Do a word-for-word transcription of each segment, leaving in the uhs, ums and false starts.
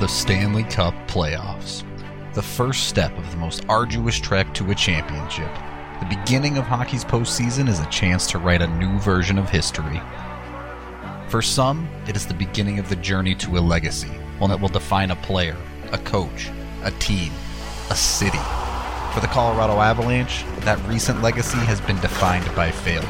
the Stanley Cup playoffs. The first step of the most arduous trek to a championship. The beginning of hockey's postseason is a chance to write a new version of history. For some, it is the beginning of the journey to a legacy, one that will define a player, a coach, a team, a city. For the Colorado Avalanche, that recent legacy has been defined by failure.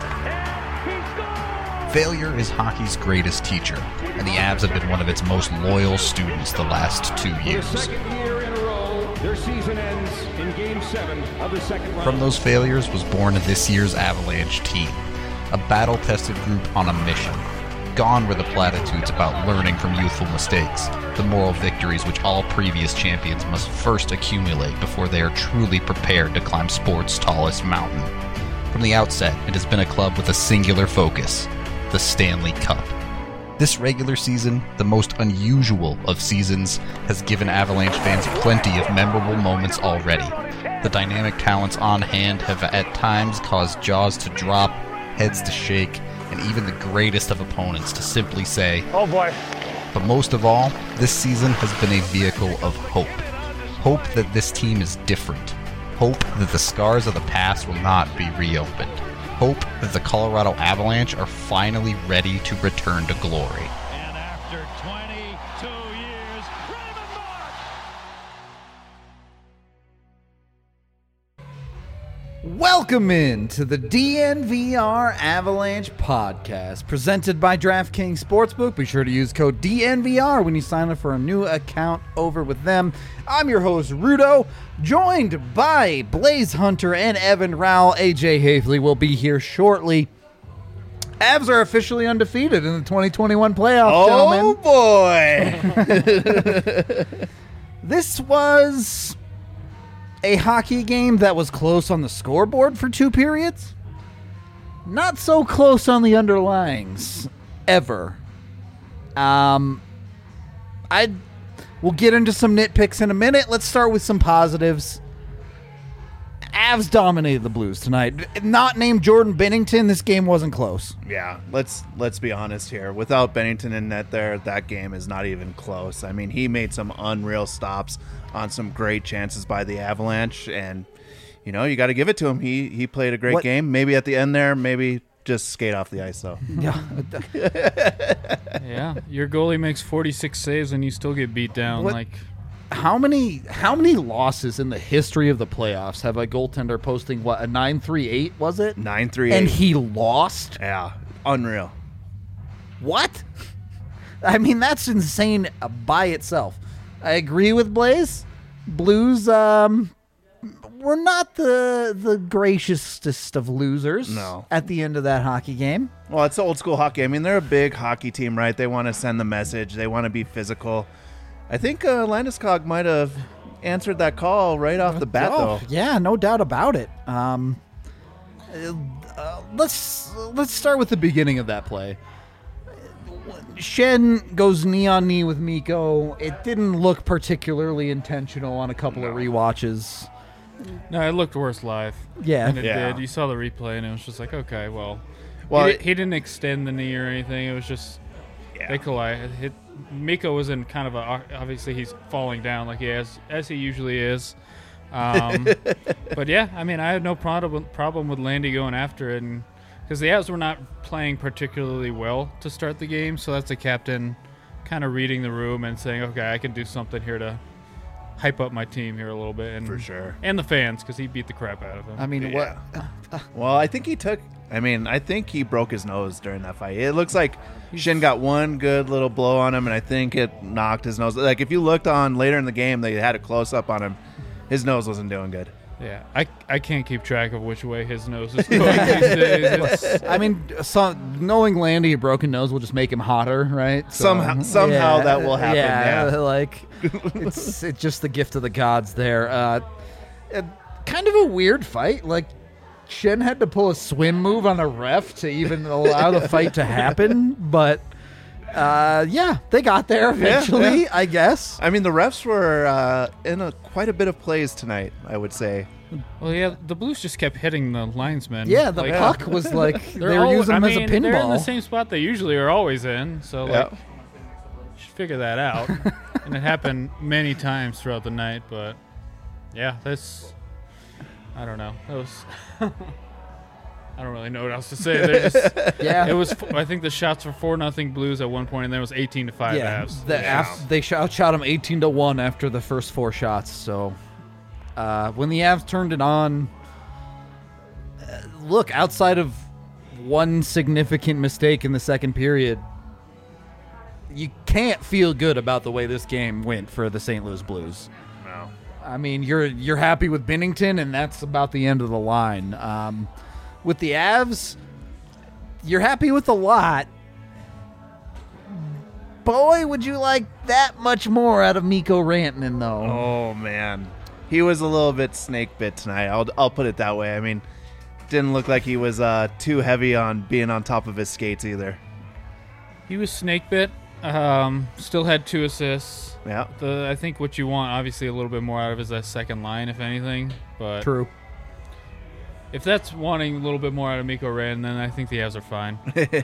Failure is hockey's greatest teacher, and the Avs have been one of its most loyal students the last two years. Their season ends in Game seven of the second round. From those failures was born this year's Avalanche team, a battle-tested group on a mission. Gone were the platitudes about learning from youthful mistakes, the moral victories which all previous champions must first accumulate before they are truly prepared to climb sport's tallest mountain. From the outset, it has been a club with a singular focus, the Stanley Cup. This regular season, the most unusual of seasons, has given Avalanche fans plenty of memorable moments already. The dynamic talents on hand have at times caused jaws to drop, heads to shake, and even the greatest of opponents to simply say, "Oh boy." But most of all, this season has been a vehicle of hope. Hope that this team is different. Hope that the scars of the past will not be reopened. Hope that the Colorado Avalanche are finally ready to return to glory. And after twenty-two years, Raymond Mark! Welcome in to the D N V R Avalanche podcast, presented by DraftKings Sportsbook. Be sure to use code D N V R when you sign up for a new account over with them. I'm your host, Rudo, joined by Blaze Hunter and Evan Rowell. A J Hafley will be here shortly. Avs are officially undefeated in the twenty twenty-one playoffs, oh, gentlemen. boy. This was a hockey game that was close on the scoreboard for two periods. Not so close on the underlyings, ever. Um, I we'll get into some nitpicks in a minute. Let's start with some positives. Avs dominated the Blues tonight. Not named Jordan Binnington, this game wasn't close. Yeah, let's let's be honest here. Without Bennington in net there, that game is not even close. I mean, he made some unreal stops on some great chances by the Avalanche, and you know, you got to give it to him. He he played a great What? game. Maybe at the end there, maybe just skate off the ice though. Yeah. Yeah, your goalie makes forty-six saves and you still get beat down. What? Like, How many how many losses in the history of the playoffs have a goaltender posting what, a nine three eight was it? nine three And eight. he lost? Yeah, unreal. What? I mean, that's insane by itself. I agree with Blaze. Blues um were not the the graciousest of losers No. at the end of that hockey game. Well, it's old school hockey. I mean, they're a big hockey team, right? They want to send the message. They want to be physical. I think uh, Landeskog might have answered that call right off the bat, Oh, though. yeah, no doubt about it. Um, uh, let's let's start with the beginning of that play. Shen goes knee on knee with Mikko. It didn't look particularly intentional on a couple of rewatches. no, it looked worse live. Yeah. And it Yeah. did. You saw the replay and it was just like, okay, well. Well, he, di- he didn't extend the knee or anything. It was just, Yeah. they collided. Hit, Miko was in kind of a, obviously he's falling down like he has, as he usually is. Um, but yeah, I mean, I had no problem problem with Landy going after it, and because the Avs were not playing particularly well to start the game, so that's the captain kind of reading the room and saying, okay, I can do something here to hype up my team here a little bit, and For sure. and the fans, because he beat the crap out of them. I mean, Yeah. what? Well, I think he took. I mean, I think he broke his nose during that fight. It looks like Shin got one good little blow on him, and I think it knocked his nose. Like if you looked on later in the game, they had a close up on him. His nose wasn't doing good. Yeah, I, I can't keep track of which way his nose is going these days. It's, I mean, so, knowing Landy a broken nose will just make him hotter, right? So, Somehow- somehow that will happen, yeah. like it's it's just the gift of the gods there. Uh, uh, kind of a weird fight. Like Shen had to pull a swim move on a ref to even allow the fight to happen, but uh, yeah, they got there eventually, yeah. I guess. I mean, the refs were uh, in a, quite a bit of plays tonight, I would say. well, yeah, the Blues just kept hitting the linesmen. Yeah, the Like, puck was like they they're were al- using I him mean, as a They're in the pinball. same spot they usually are always in, so like, Yeah. should figure that out. and it happened many times throughout the night. But yeah, that's I don't know. That was I don't really know what else to say. They're just, Yeah. it was. I think the shots were four nothing Blues at one point, and then it was eighteen to five Yeah, Avs. the Yeah. Avs, they shot, shot them eighteen to one after the first four shots. So uh, when the Avs turned it on, uh, look, outside of one significant mistake in the second period, you can't feel good about the way this game went for the Saint Louis Blues. No. I mean, you're you're happy with Binnington, and that's about the end of the line. Um, with the Avs, you're happy with a lot. Boy, would you like that much more out of Mikko Rantanen, though. Oh man, he was a little bit snake bit tonight. I'll I'll put it that way. I mean, didn't look like he was uh, too heavy on being on top of his skates either. He was snake bit. Um, still had two assists. Yeah. The I think what you want, obviously, a little bit more out of is that second line, if anything. But True. if that's wanting a little bit more out of Mikko Rantanen, then I think the Avs are fine.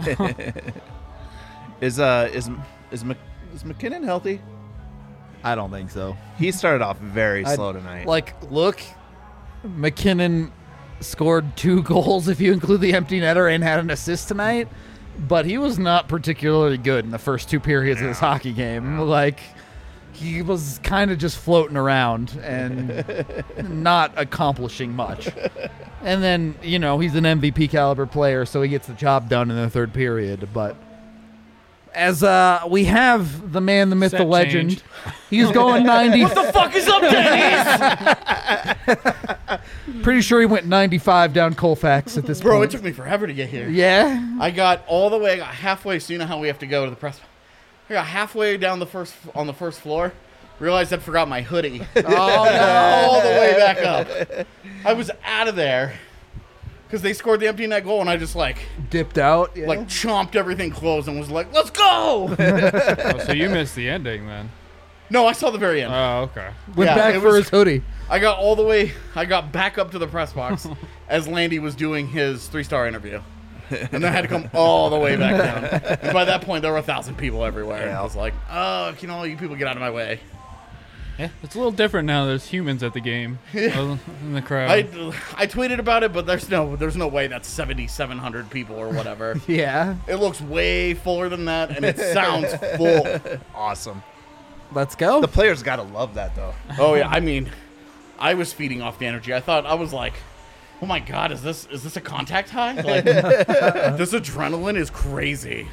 Is uh is is Mc, is McKinnon healthy? I don't think so. He started off very I'd- slow tonight. Like, look, McKinnon scored two goals if you include the empty netter and had an assist tonight, but he was not particularly good in the first two periods of this hockey game. Like, he was kind of just floating around and not accomplishing much. And then, you know, he's an M V P caliber player, so he gets the job done in the third period. But as uh, we have the man, the myth, Set the legend, change. he's going ninety. What the fuck is up, Dennis? Pretty sure he went ninety-five down Colfax at this Bro, it point. took me forever to get here. Yeah. I got all the way, I got halfway, so you know how we have to go to the press. I got halfway down the first on the first floor, realized I'd forgot my hoodie. Oh, no. All the way back up. I was out of there because they scored the empty net goal, and I just like Dipped out. Yeah. like chomped everything closed and was like, "Let's go!" Oh, so you missed the ending then? No, I saw the very end. Oh, okay. Went yeah, back it for was- his hoodie. I got all the way. I got back up to the press box as Landy was doing his three-star interview, and then I had to come all the way back down. And by that point, there were a thousand people everywhere. And I was like, "Oh, can all you people get out of my way?" Yeah, it's a little different now. There's humans at the game other in the crowd. I, I tweeted about it, but there's no there's no way that's seventy-seven hundred people or whatever. Yeah. It looks way fuller than that, and it sounds full. awesome. Let's go. The players gotta love that though. Oh yeah, I mean, I was feeding off the energy. I thought I was like, "Oh my god, is this is this a contact high? Like, this adrenaline is crazy."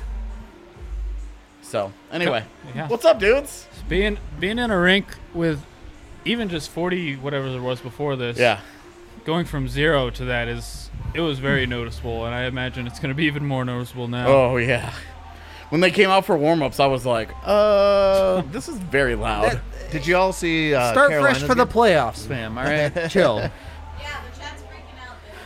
So anyway, Yeah. what's up, dudes? being being in a rink with even just forty whatever it was before this. Yeah, Going from zero to that is it was very noticeable, and I imagine it's going to be even more noticeable now. oh yeah. When they came out for warm-ups, I was like, "Uh, this is very loud." Did you all see uh, Start Carolina's fresh for the game? playoffs, fam. All right. Chill. Yeah, the chat's freaking out there.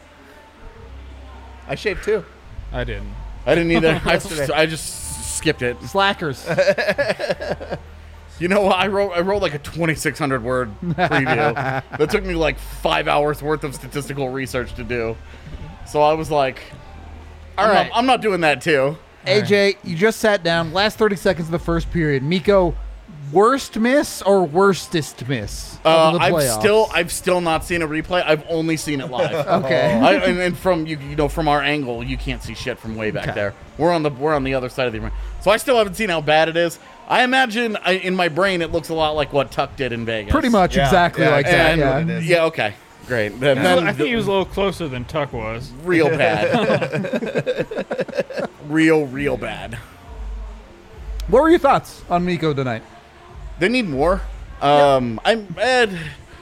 I shaved too. I didn't. I didn't either. I, just, I just skipped it. Slackers. You know what? I wrote I wrote like a twenty-six hundred word preview. That took me like five hours worth of statistical research to do. So I was like, all All right, right. I'm not doing that too. A J, you just sat down. Last thirty seconds of the first period. Mikko, worst miss or worstest miss Uh, of the I've playoffs? still I've still not seen a replay. I've only seen it live. Okay. I, and, and from you, you know, from our angle, you can't see shit from way back Okay. there. We're on the we're on the other side of the ring, so I still haven't seen how bad it is. I imagine I, in my brain it looks a lot like what Tuck did in Vegas. Pretty much Yeah, exactly yeah, like that. And, Yeah. what it is. yeah, okay, great. Then, then I think he was a little closer than Tuck was. real bad. real, real bad. What were your thoughts on Mikko tonight? They need more. Um, I'm. Ed,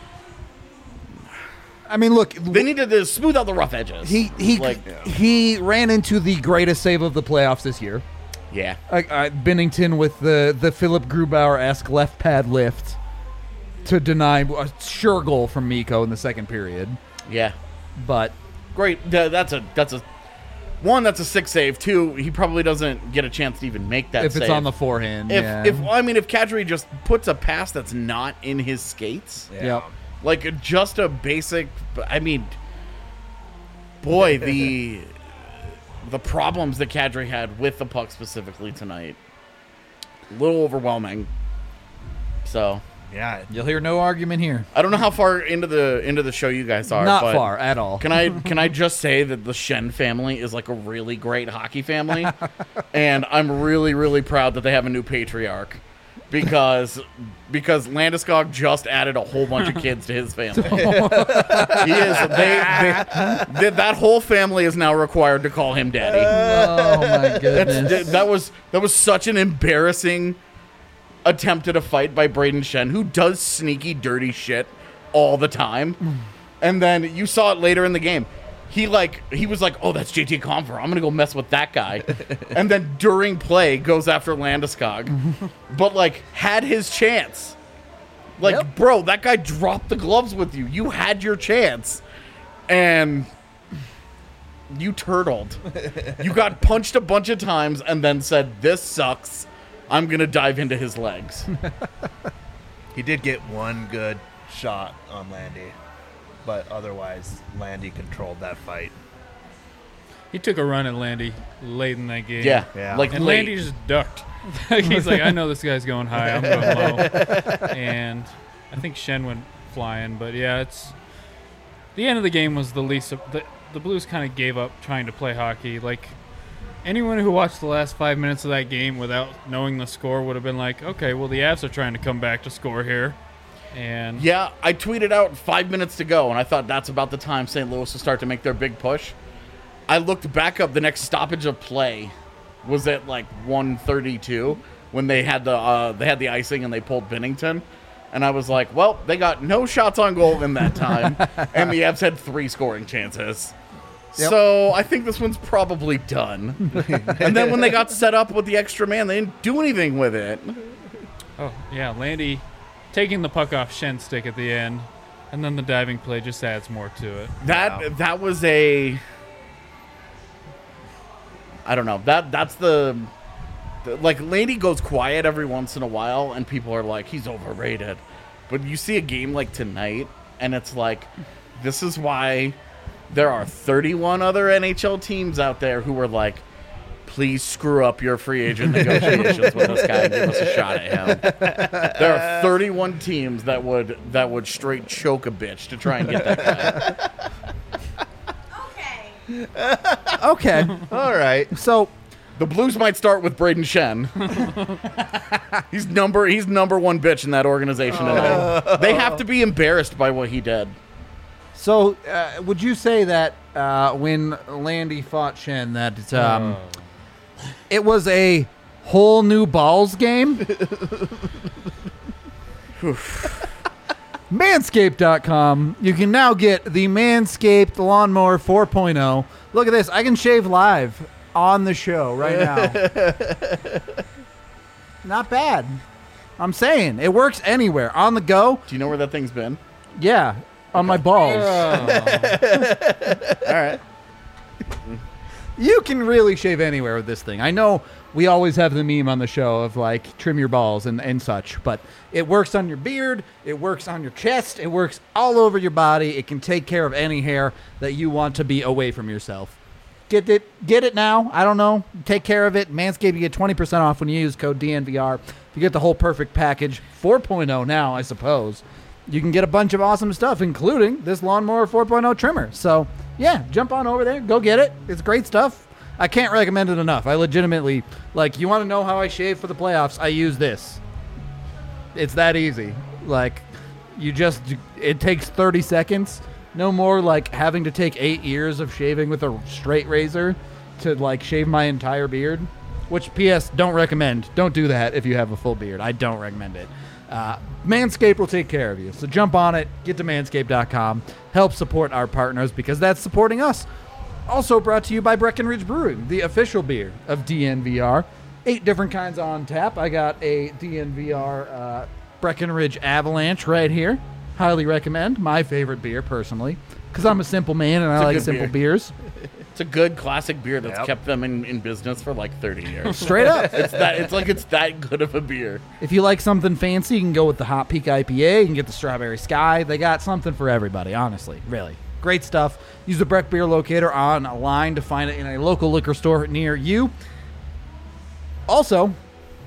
I mean, look, they need to uh, smooth out the rough edges. he he like, he ran into the greatest save of the playoffs this year. yeah. Uh, uh, Binnington with the the Philip Grubauer-esque left pad lift to deny a sure goal from Mikko in the second period. Yeah. But Great. Th- That's a that's a one. That's a six save. Two. He probably doesn't get a chance to even make that. if it's save. on the forehand, If yeah. if I mean if Kadri just puts a pass that's not in his skates, Yep. like just a basic. I mean, boy, the the problems that Kadri had with the puck specifically tonight, a little overwhelming. So Yeah. You'll hear no argument here. I don't know how far into the into the show you guys are. Not but far at all. Can I can I just say that the Shen family is like a really great hockey family, and I'm really really proud that they have a new patriarch, because because Landeskog just added a whole bunch of kids to his family. he is they, they, they that whole family is now required to call him daddy. Oh my goodness. That's, that was that was such an embarrassing attempt at a fight by Braden Shen, who does sneaky, dirty shit all the time. And then you saw it later in the game. He like he was like, "Oh, that's J T Compher. I'm gonna go mess with that guy." And then during play goes after Landeskog, but like had his chance. Like, Yep. bro, that guy dropped the gloves with you. You had your chance, and you turtled. You got punched a bunch of times, and then said, "This sucks. I'm gonna dive into his legs." He did get one good shot on Landy, but otherwise, Landy controlled that fight. He took a run at Landy late in that game. Yeah, Yeah. like And late. Landy just ducked. He's like, I know this guy's going high. I'm going low. And I think Shen went flying. But yeah, it's the end of the game was the least. Of, the the Blues kind of gave up trying to play hockey. Like anyone who watched the last five minutes of that game without knowing the score would have been like, okay, well the Avs are trying to come back to score here. And Yeah, I tweeted out five minutes to go, and I thought that's about the time Saint Louis will start to make their big push. I looked back up. The next stoppage of play was at like one thirty-two when they had the uh, they had the icing and they pulled Binnington, and I was like, well, they got no shots on goal in that time, and the Avs had three scoring chances. Yep. So I think this one's probably done. And then when they got set up with the extra man, they didn't do anything with it. oh yeah, Landy taking the puck off Shen's stick at the end, and then the diving play just adds more to it. That Wow. that was a I don't know. That that's the, the like Landy goes quiet every once in a while and people are like he's overrated. But you see a game like tonight and it's like this is why there are thirty-one other N H L teams out there who are like, please screw up your free agent negotiations with this guy and give us a shot at him. There are thirty-one teams that would that would straight choke a bitch to try and get that guy. Okay. Okay. All right. So The Blues might start with Braden Shen. he's number he's number one bitch in that organization tonight. They have to be embarrassed by what he did. So, uh, would you say that uh, when Landy fought Shen, that it's, um, it was a whole new balls game? Manscaped dot com. You can now get the Manscaped Lawnmower four point oh. Look at this. I can shave live on the show right now. Not bad. I'm saying. It works anywhere. On the go. Do you know where that thing's been? Yeah. On my balls. All right. You can really shave anywhere with this thing. I know we always have the meme on the show of like trim your balls and, and such, but it works on your beard, it works on your chest, it works all over your body. It can take care of any hair that you want to be away from yourself. Get it get it now. I don't know. Take care of it. Manscaped, you get twenty percent off when you use code D N V R. You get the whole perfect package. four point oh now, I suppose. You can get a bunch of awesome stuff, including this Lawnmower four point oh trimmer. So, yeah, jump on over there. Go get it. It's great stuff. I can't recommend it enough. I legitimately, like, you want to know how I shave for the playoffs? I use this. It's that easy. Like, you just, it takes thirty seconds. No more, like, having to take eight years of shaving with a straight razor to, like, shave my entire beard. Which, P S, don't recommend. Don't do that if you have a full beard. I don't recommend it. Uh, Manscaped will take care of you. So jump on it. Get to manscaped dot com. Help support our partners because that's supporting us. Also brought to you by Breckenridge Brewing, the official beer of D N V R. Eight different kinds on tap. I got a D N V R uh, Breckenridge Avalanche right here. Highly recommend. My favorite beer, personally, because I'm a simple man and I a like good simple beer. beers. It's a good classic beer that's Yep. kept them in, in business for like thirty years. Straight up. It's that it's like it's that good of a beer. If you like something fancy, you can go with the Hot Peak I P A. You can get the Strawberry Sky. They got something for everybody, honestly. Really. Great stuff. Use the Breck Beer Locator online to find it in a local liquor store near you. Also,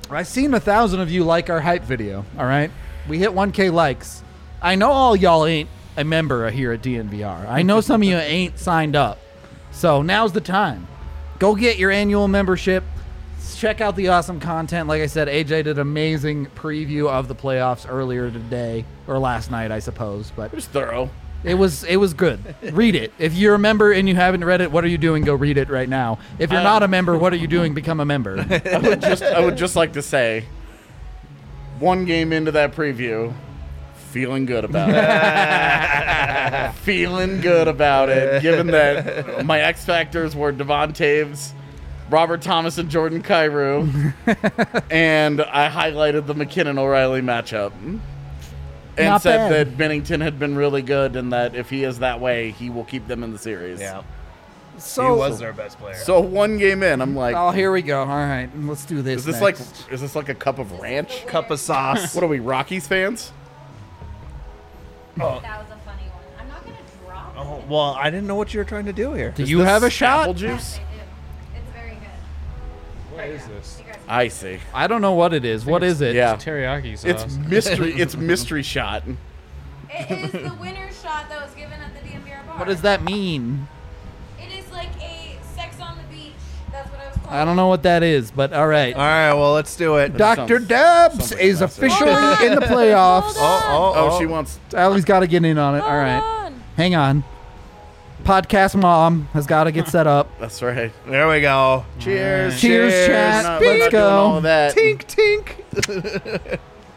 I seen a thousand of you like our hype video. All right, we hit one K likes. I know all y'all ain't a member here at D N V R. I know some of you ain't signed up. So now's the time. Go get your annual membership. Check out the awesome content. Like I said, A J did an amazing preview of the playoffs earlier today, or last night, I suppose. But It was thorough. it was it was good. Read it. If you're a member and you haven't read it, what are you doing? Go read it right now. If you're not a member, what are you doing? Become a member. I would just I would just like to say, one game into that preview, feeling good about it. Feeling good about it, given that my X Factors were Devon Taves, Robert Thomas, and Jordan Cairo, and I highlighted the McKinnon-O'Reilly matchup. And Not said bad. that Bennington had been really good and that if he is that way, he will keep them in the series. Yeah. So, he was their best player. So one game in, I'm like, oh, here we go. All right, let's do this. is this next. like is this like a cup of ranch? Cup of sauce. What are we, Rockies fans? That was a funny one. I'm not gonna drop Oh, it. well, I didn't know what you were trying to do here. Do you have a shot? Apple I juice? do. It's very good. What is this? You guys I see. I don't know what it is. What is it? Yeah. Teriyaki sauce. It's mystery. It's mystery shot. It is the winner's shot that was given at the D M V R bar. What does that mean? It is like a sex on the beach. That's what I was called. I don't know what that is, but all right. All right, well, let's do it. Doctor sounds- Dubs sounds like is a message. officially Hold on. in the playoffs. Hold on. Oh, Oh, she wants. Allie's got to get in on it. Hold All right. on. Hang on. Podcast mom has got to get set up. That's right. There we go. Cheers. Cheers, We're chat. not, we're Let's not go. doing all of that. Tink, tink.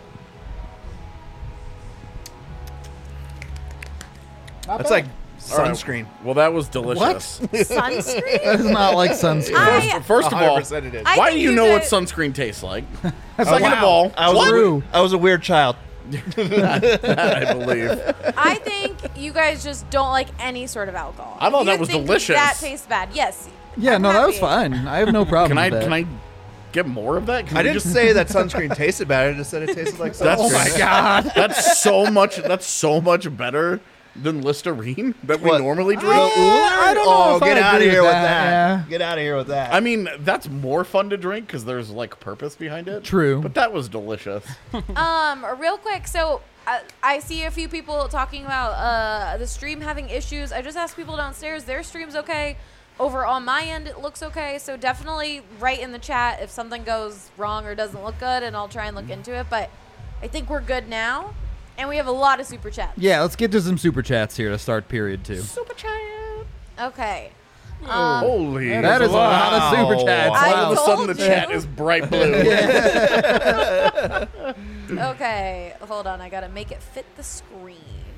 That's like All right. sunscreen. Well, that was delicious. Sunscreen? That is not like sunscreen. I- First, first of all, one hundred percent it is. I why do think you you know what guys- sunscreen tastes like? That's Second like- of all, I was, a, True. we- I was a weird child. I believe. I think you guys just don't like any sort of alcohol. I thought You that was think delicious. That tastes bad. Yes. Yeah, I'm no, that was happy. fine. I have no problem Can I? with that. Can I get more of that? Can I we didn't just say that sunscreen tasted bad. I just said it tasted like sunscreen. That's, Oh my God. That's so much. That's so much better than Listerine that we What? normally drink. Uh, I don't know Oh, if I get out of agree here with with that, that. yeah. Get out of here with that. I mean, that's more fun to drink because there's like purpose behind it. True. But that was delicious. Um, real quick, so uh, I see a few people talking about uh, the stream having issues. I just asked people downstairs, their stream's okay. Over on my end, it looks okay. So definitely write in the chat if something goes wrong or doesn't look good, and I'll try and look into it. But I think we're good now, and we have a lot of super chats. Yeah, let's get to some super chats here to start period two. Super chat. Okay. Holy. That is a lot of super chats. I All of a told sudden, the you. chat is bright blue. Okay, hold on. I gotta make it fit the screen.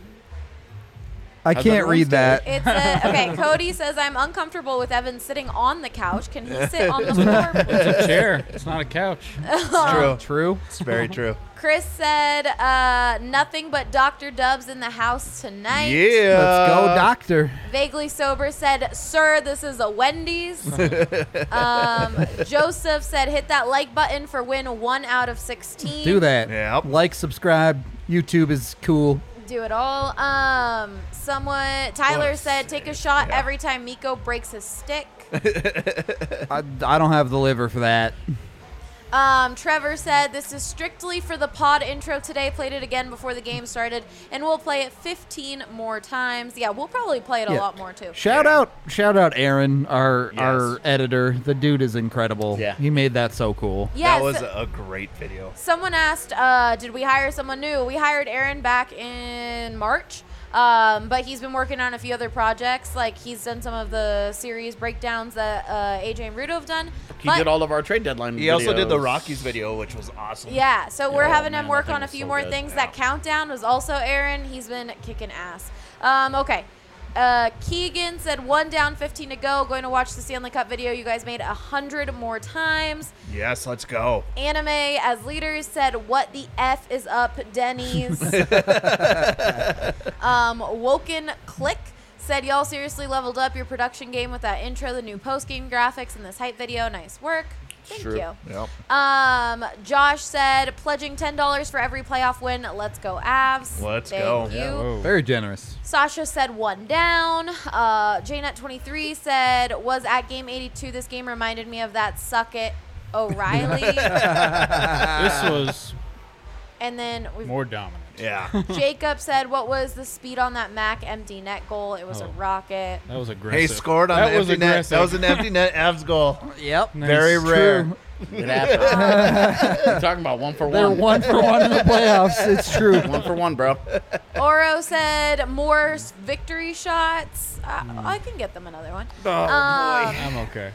I How's can't everyone's read that. It's a, okay. Cody says I'm uncomfortable with Evan sitting on the couch. Can he sit on the floor, please? It's a chair. It's not a couch. true. True. It's very true. Chris said uh, nothing but Doctor Dubs in the house tonight. Yeah. Let's go, doctor. Vaguely sober said, "Sir, this is a Wendy's." um, Joseph said, "Hit that like button for win one out of sixteen." Do that. Yep. Like, subscribe. YouTube is cool. Do it all. Um, someone Tyler Let's said, "Take a shot every time Miko breaks his stick." I, I don't have the liver for that. Um, Trevor said, "This is strictly for the pod intro today. Played it again before the game started, and we'll play it fifteen more times." Yeah, we'll probably play it a Yeah. lot more too. Shout out, shout out, Aaron, our Yes. our editor. The dude is incredible. Yeah. He made that so cool. Yes. That was a great video. Someone asked, uh, did we hire someone new? We hired Aaron back in March, um, but he's been working on a few other projects. Like, he's done some of the series breakdowns that uh, A J and Rudo have done. He But- did all of our trade deadline. He also did the videos. Rockies video, which was awesome. Yeah, so we're Oh, having man, him work that thing on a was few so more good. things. Yeah. That countdown was also Aaron. He's been kicking ass. Um, okay. Uh, Keegan said one down, fifteen to go. Going to watch the Stanley Cup video you guys made a hundred more times. Yes, let's go. Anime as leaders said, "What the f is up, Denny's?" um, Woken Click said, "Y'all seriously leveled up your production game with that intro, the new post game graphics, and this hype video. Nice work. Thank True. you." Yep. Um, Josh said, "Pledging ten dollars for every playoff win. Let's go, Avs." Let's Thank go. you. Yeah, Whoa. Very generous. Sasha said one down. Uh, J net twenty-three said, "Was at game eighty-two. This game reminded me of that suck it O'Reilly, This was and then we've more dominant. Yeah. Jacob said, "What was the speed on that Mac empty net goal? It was a Oh. rocket." That was aggressive. He scored on that the was empty net. aggressive. That was an empty net Avs goal. Yep. Nice. Very rare. True. It happened. You're talking about one for They're one. one for one in the playoffs. It's true. One for one, bro. Oro said, "More s- victory shots." Uh, I can get them another one. Oh, um, I'm okay.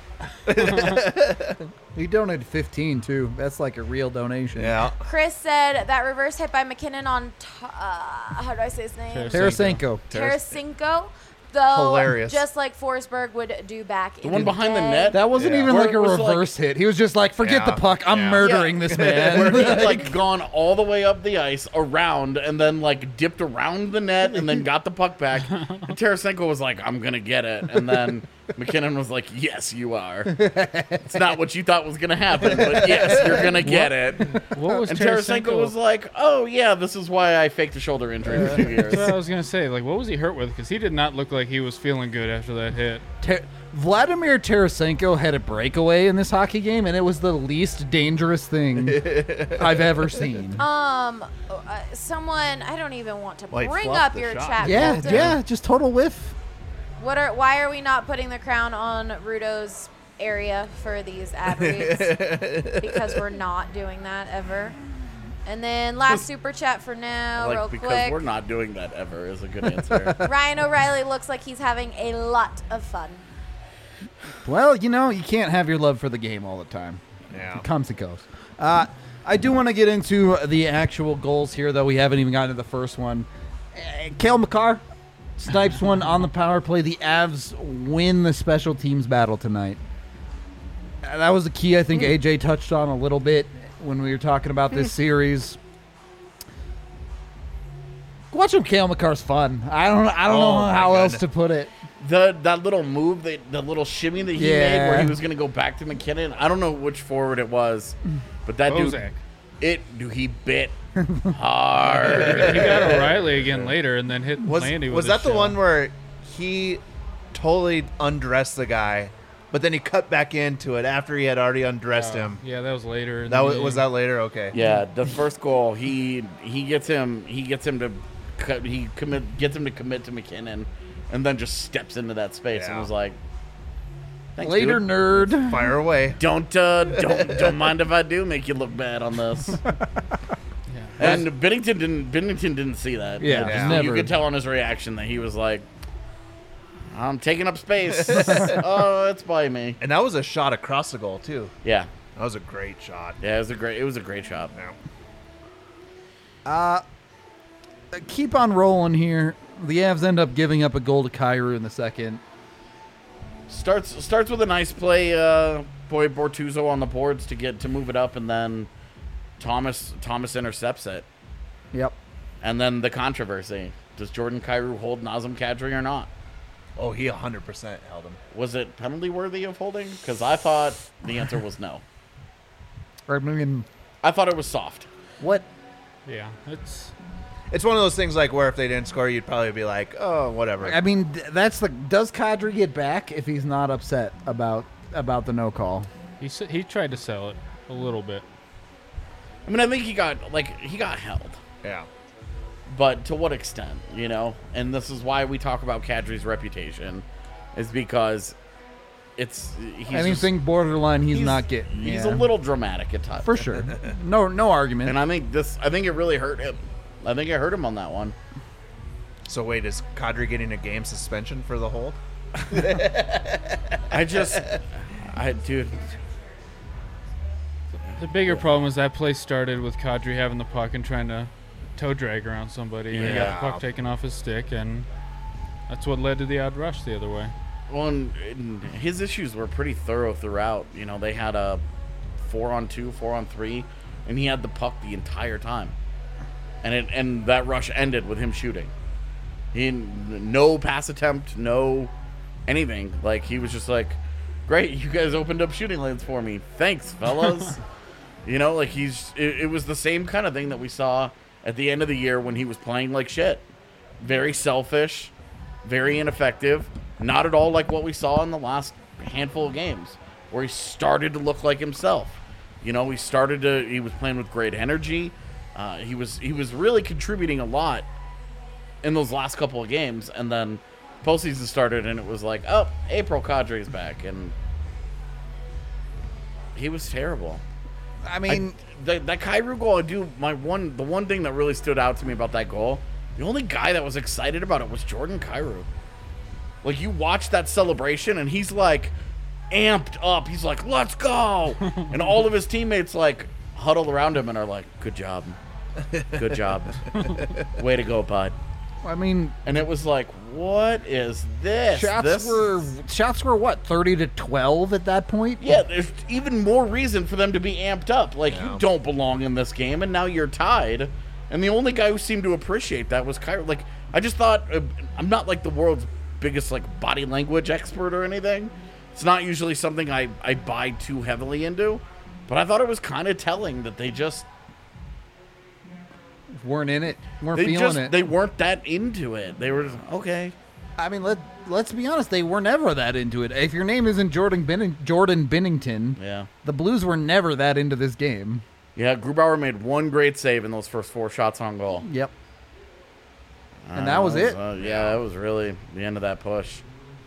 He donated fifteen too. That's like a real donation. Yeah. Chris said that reverse hit by McKinnon on t- uh, how do I say his name? Tarasenko. Tarasenko. Tarasenko. Though, Hilarious. just like Forsberg would do back. The in one behind the day. net. That wasn't Yeah. even Where like a it was like- reverse hit. He was just like, forget Yeah. the puck. I'm Yeah. murdering Yeah. this Where man. he had like gone all the way up the ice around and then like dipped around the net and then got the puck back. And Tarasenko was like, I'm gonna get it. And then McKinnon was like, yes, you are. It's not what you thought was gonna happen, but yes, you're gonna get it. What was And Tarasenko? Tarasenko was like, oh yeah, this is why I faked a shoulder injury for two years. That's what I was gonna say. Like, what was he hurt with? Because he did not look like he was feeling good after that hit. Ter- Vladimir Tarasenko had a breakaway in this hockey game, and it was the least dangerous thing I've ever seen. Um, uh, someone I don't even want to Well, he bring fluffed up the your shot. chat. Yeah, filter. yeah, just total whiff. What are? Why are we not putting the crown on Rudo's area for these ad reads? Because we're not doing that ever. And then last super chat for now, Like real because quick. we're not doing that ever is a good answer. Ryan O'Reilly looks like he's having a lot of fun. Well, you know, you can't have your love for the game all the time. Yeah. It comes and goes. Uh, I do want to get into the actual goals here, though we haven't even gotten to the first one. Uh, Cale Makar snipes one on the power play. The Avs win the special teams battle tonight. Uh, that was the key I think A J touched on a little bit when we were talking about this series. Watching Cale Makar's fun. I don't. I don't Oh, know my how else goodness. to put it. The that little move, that the little shimmy that he made, Yeah. where he was gonna go back to McKinnon. I don't know which forward it was, but that dude, Bozak. it, dude, he bit hard. He got O'Reilly again later, and then hit Was, Landy with was a that the shot. one where he totally undressed the guy, but then he cut back into it after he had already undressed him? Yeah, that was later. in That the was, game. was that later? Okay. Yeah, the first goal, he he gets him, he gets him to, cut, he commit, gets him to commit to McKinnon, and then just steps into that space and Yeah. was like, Thanks, Later, dude. nerd. Fire away. Don't uh, don't don't mind if I do make you look bad on this. And Bennington didn't Bennington didn't see that. Yeah, Just- just You never. could tell on his reaction that he was like, I'm taking up space. Oh, it's by me. And that was a shot across the goal too. Yeah. That was a great shot. Yeah, it was a great it was a great shot. Uh, keep on rolling here. The Avs end up giving up a goal to Kyrou in the second. Starts starts with a nice play, uh boy Bortuzzo on the boards to get to move it up, and then Thomas Thomas intercepts it. Yep. And then the controversy. Does Jordan Kyrou hold Nazem Kadri or not? Oh, he one hundred percent held him. Was it penalty worthy of holding? Because I thought the answer was no. I mean, I thought it was soft. what? Yeah, it's It's one of those things like where if they didn't score, you'd probably be like, oh, whatever. I mean, th- that's the. Does Kadri get back if he's not upset about about the no call? he s- he tried to sell it a little bit. I mean, I think he got like he got held, Yeah. but to what extent, you know? And this is why we talk about Kadri's reputation, is because it's he's Anything borderline, he's, just, not getting. He's yeah. a little dramatic at times, for sure. No, no argument. And I think this, I think it really hurt him. I think it hurt him on that one. So wait, is Kadri getting a game suspension for the hold? I just, I dude, The bigger problem is that play started with Kadri having the puck and trying to toe drag around somebody, and he got Yeah. the puck taken off his stick, and that's what led to the odd rush the other way. well, and, and his issues were pretty thorough throughout. You know, they had a four on two, four on three, and he had the puck the entire time. And it and that rush ended with him shooting. He no pass attempt, no anything. Like he was just like, "Great, you guys opened up shooting lanes for me. Thanks, fellas." You know, like he's it, it was the same kind of thing that we saw at the end of the year when he was playing like shit. Very selfish, very ineffective, not at all like what we saw in the last handful of games where he started to look like himself. You know, he started to. He was playing with great energy. Uh, he was he was really contributing a lot in those last couple of games, and then postseason started, and it was like, oh, April Kadri's back, and he was terrible. I mean, I, that, that Kyrou goal, I do my one. The one thing that really stood out to me about that goal, the only guy that was excited about it was Jordan Kyrou. Like, you watch that celebration, and he's like amped up. He's like, "Let's go!" And all of his teammates like huddle around him and are like, "Good job, good job, way to go, bud." I mean, And it was like, what is this? shots This- were shots were what thirty to twelve at that point. Yeah, there's even more reason for them to be amped up. Like, you don't belong in this game, and now you're tied. And the only guy who seemed to appreciate that was Kyrie. Like, I just thought, uh, I'm not like the world's biggest like body language expert or anything. It's not usually something I, I buy too heavily into. But I thought it was kind of telling that they just weren't in it, weren't they feeling just it. they weren't that into it. They were just, okay. I mean, let let's be honest, they were never that into it. If your name isn't Jordan Benning, Jordan Bennington, Yeah. the Blues were never that into this game. Yeah, Grubauer made one great save in those first four shots on goal. Yep. And Uh, that was it. uh, yeah, that was really the end of that push.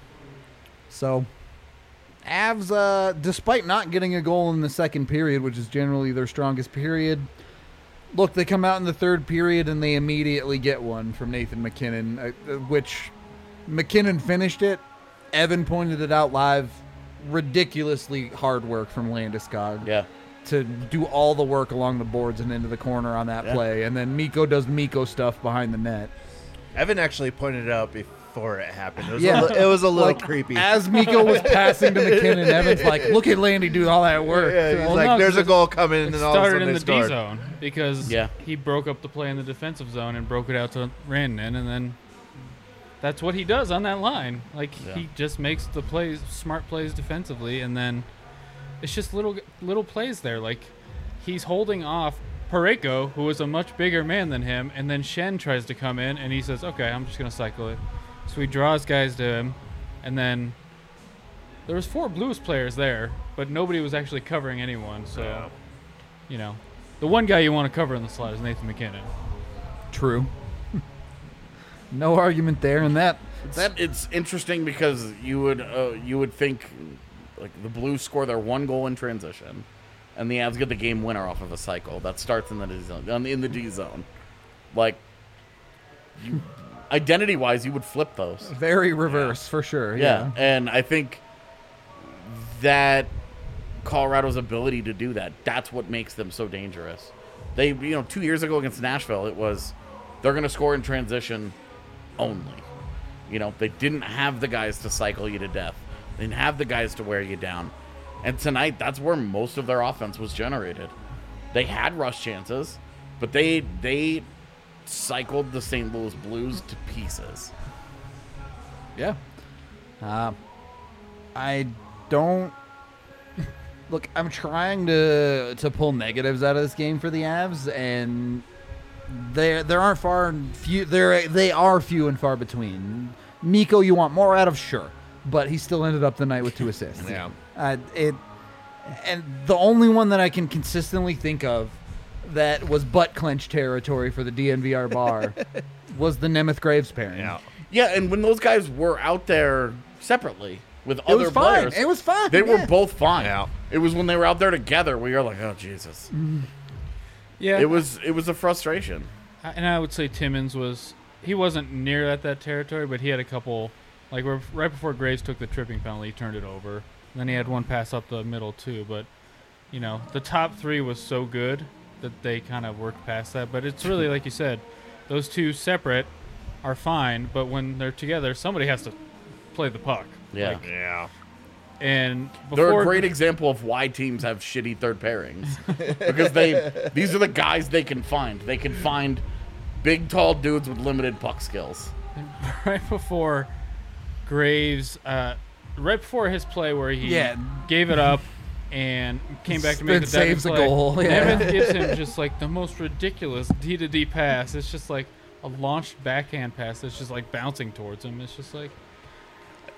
So, Avs, uh, despite not getting a goal in the second period, which is generally their strongest period, look, they come out in the third period and they immediately get one from Nathan McKinnon, uh, which McKinnon finished it. Evan pointed it out live. Ridiculously hard work from Landeskog Yeah. to do all the work along the boards and into the corner on that Yeah. play. And then Miko does Miko stuff behind the net. Evan actually pointed it out before it happened. It was, Yeah. a, li- it was a little Like, creepy. As Miko was passing to McKinnon, Evan's like, look at Landy do all that work. yeah, he's Well, like, no, there's 'cause a goal coming, It and then all of a started sudden in they the D scored. zone because Yeah. he broke up the play in the defensive zone and broke it out to Rantanen, and then that's what he does on that line. Like, Yeah. he just makes the plays, smart plays defensively, and then it's just little little plays there. Like, he's holding off Pareko, who is a much bigger man than him, and then Shen tries to come in, and he says, "Okay, I'm just gonna cycle it." So he draws guys to him, and then there was four Blues players there, but nobody was actually covering anyone. So, Yeah. you know, the one guy you want to cover in the slot is Nathan McKinnon. True. No argument there, and that That it's interesting because you would uh, you would think like the Blues score their one goal in transition, and the Avs get the game winner off of a cycle that starts in the D zone. In the D zone, like you, identity wise, you would flip those. very reverse for sure. Yeah. Yeah. And I think that Colorado's ability to do that, that's what makes them so dangerous. They, you know, two years ago against Nashville, it was they're going to score in transition only. You know, they didn't have the guys to cycle you to death. They didn't have the guys to wear you down. And tonight, that's where most of their offense was generated. They had rush chances, but they they cycled the Saint Louis Blues to pieces. Yeah. Uh, I don't look. I'm trying to to pull negatives out of this game for the Avs, and there there aren't far and few. There they are few and far between. Miko, you want more out of, sure, but he still ended up the night with two assists. Yeah. Uh, it and the only one that I can consistently think of that was butt clench territory for the D N V R bar was the Nemeth Graves pairing. Yeah. Yeah, and when those guys were out there separately with It other was fine. players, It was fine. they yeah. were both fine. Yeah. It was when they were out there together where you're like, oh Jesus. Yeah, It was it was a frustration. I- and I would say Timmins was he wasn't near at that territory, but he had a couple like where- right before Graves took the tripping penalty, he turned it over. And then he had one pass up the middle too, but you know the top three was so good that they kind of worked past that. But it's really like you said, those two separate are fine, but when they're together, somebody has to play the puck. Yeah. Like, Yeah. and They're before a great example of why teams have shitty third pairings. because they these are the guys they can find. They can find big tall dudes with limited puck skills. right before Graves, uh, right before his play where he Yeah. gave it up and came back to make Then the diving saves a play, goal, yeah. Nevin gives him just like the most ridiculous D to D pass. It's just like a launched backhand pass that's just like bouncing towards him. It's just like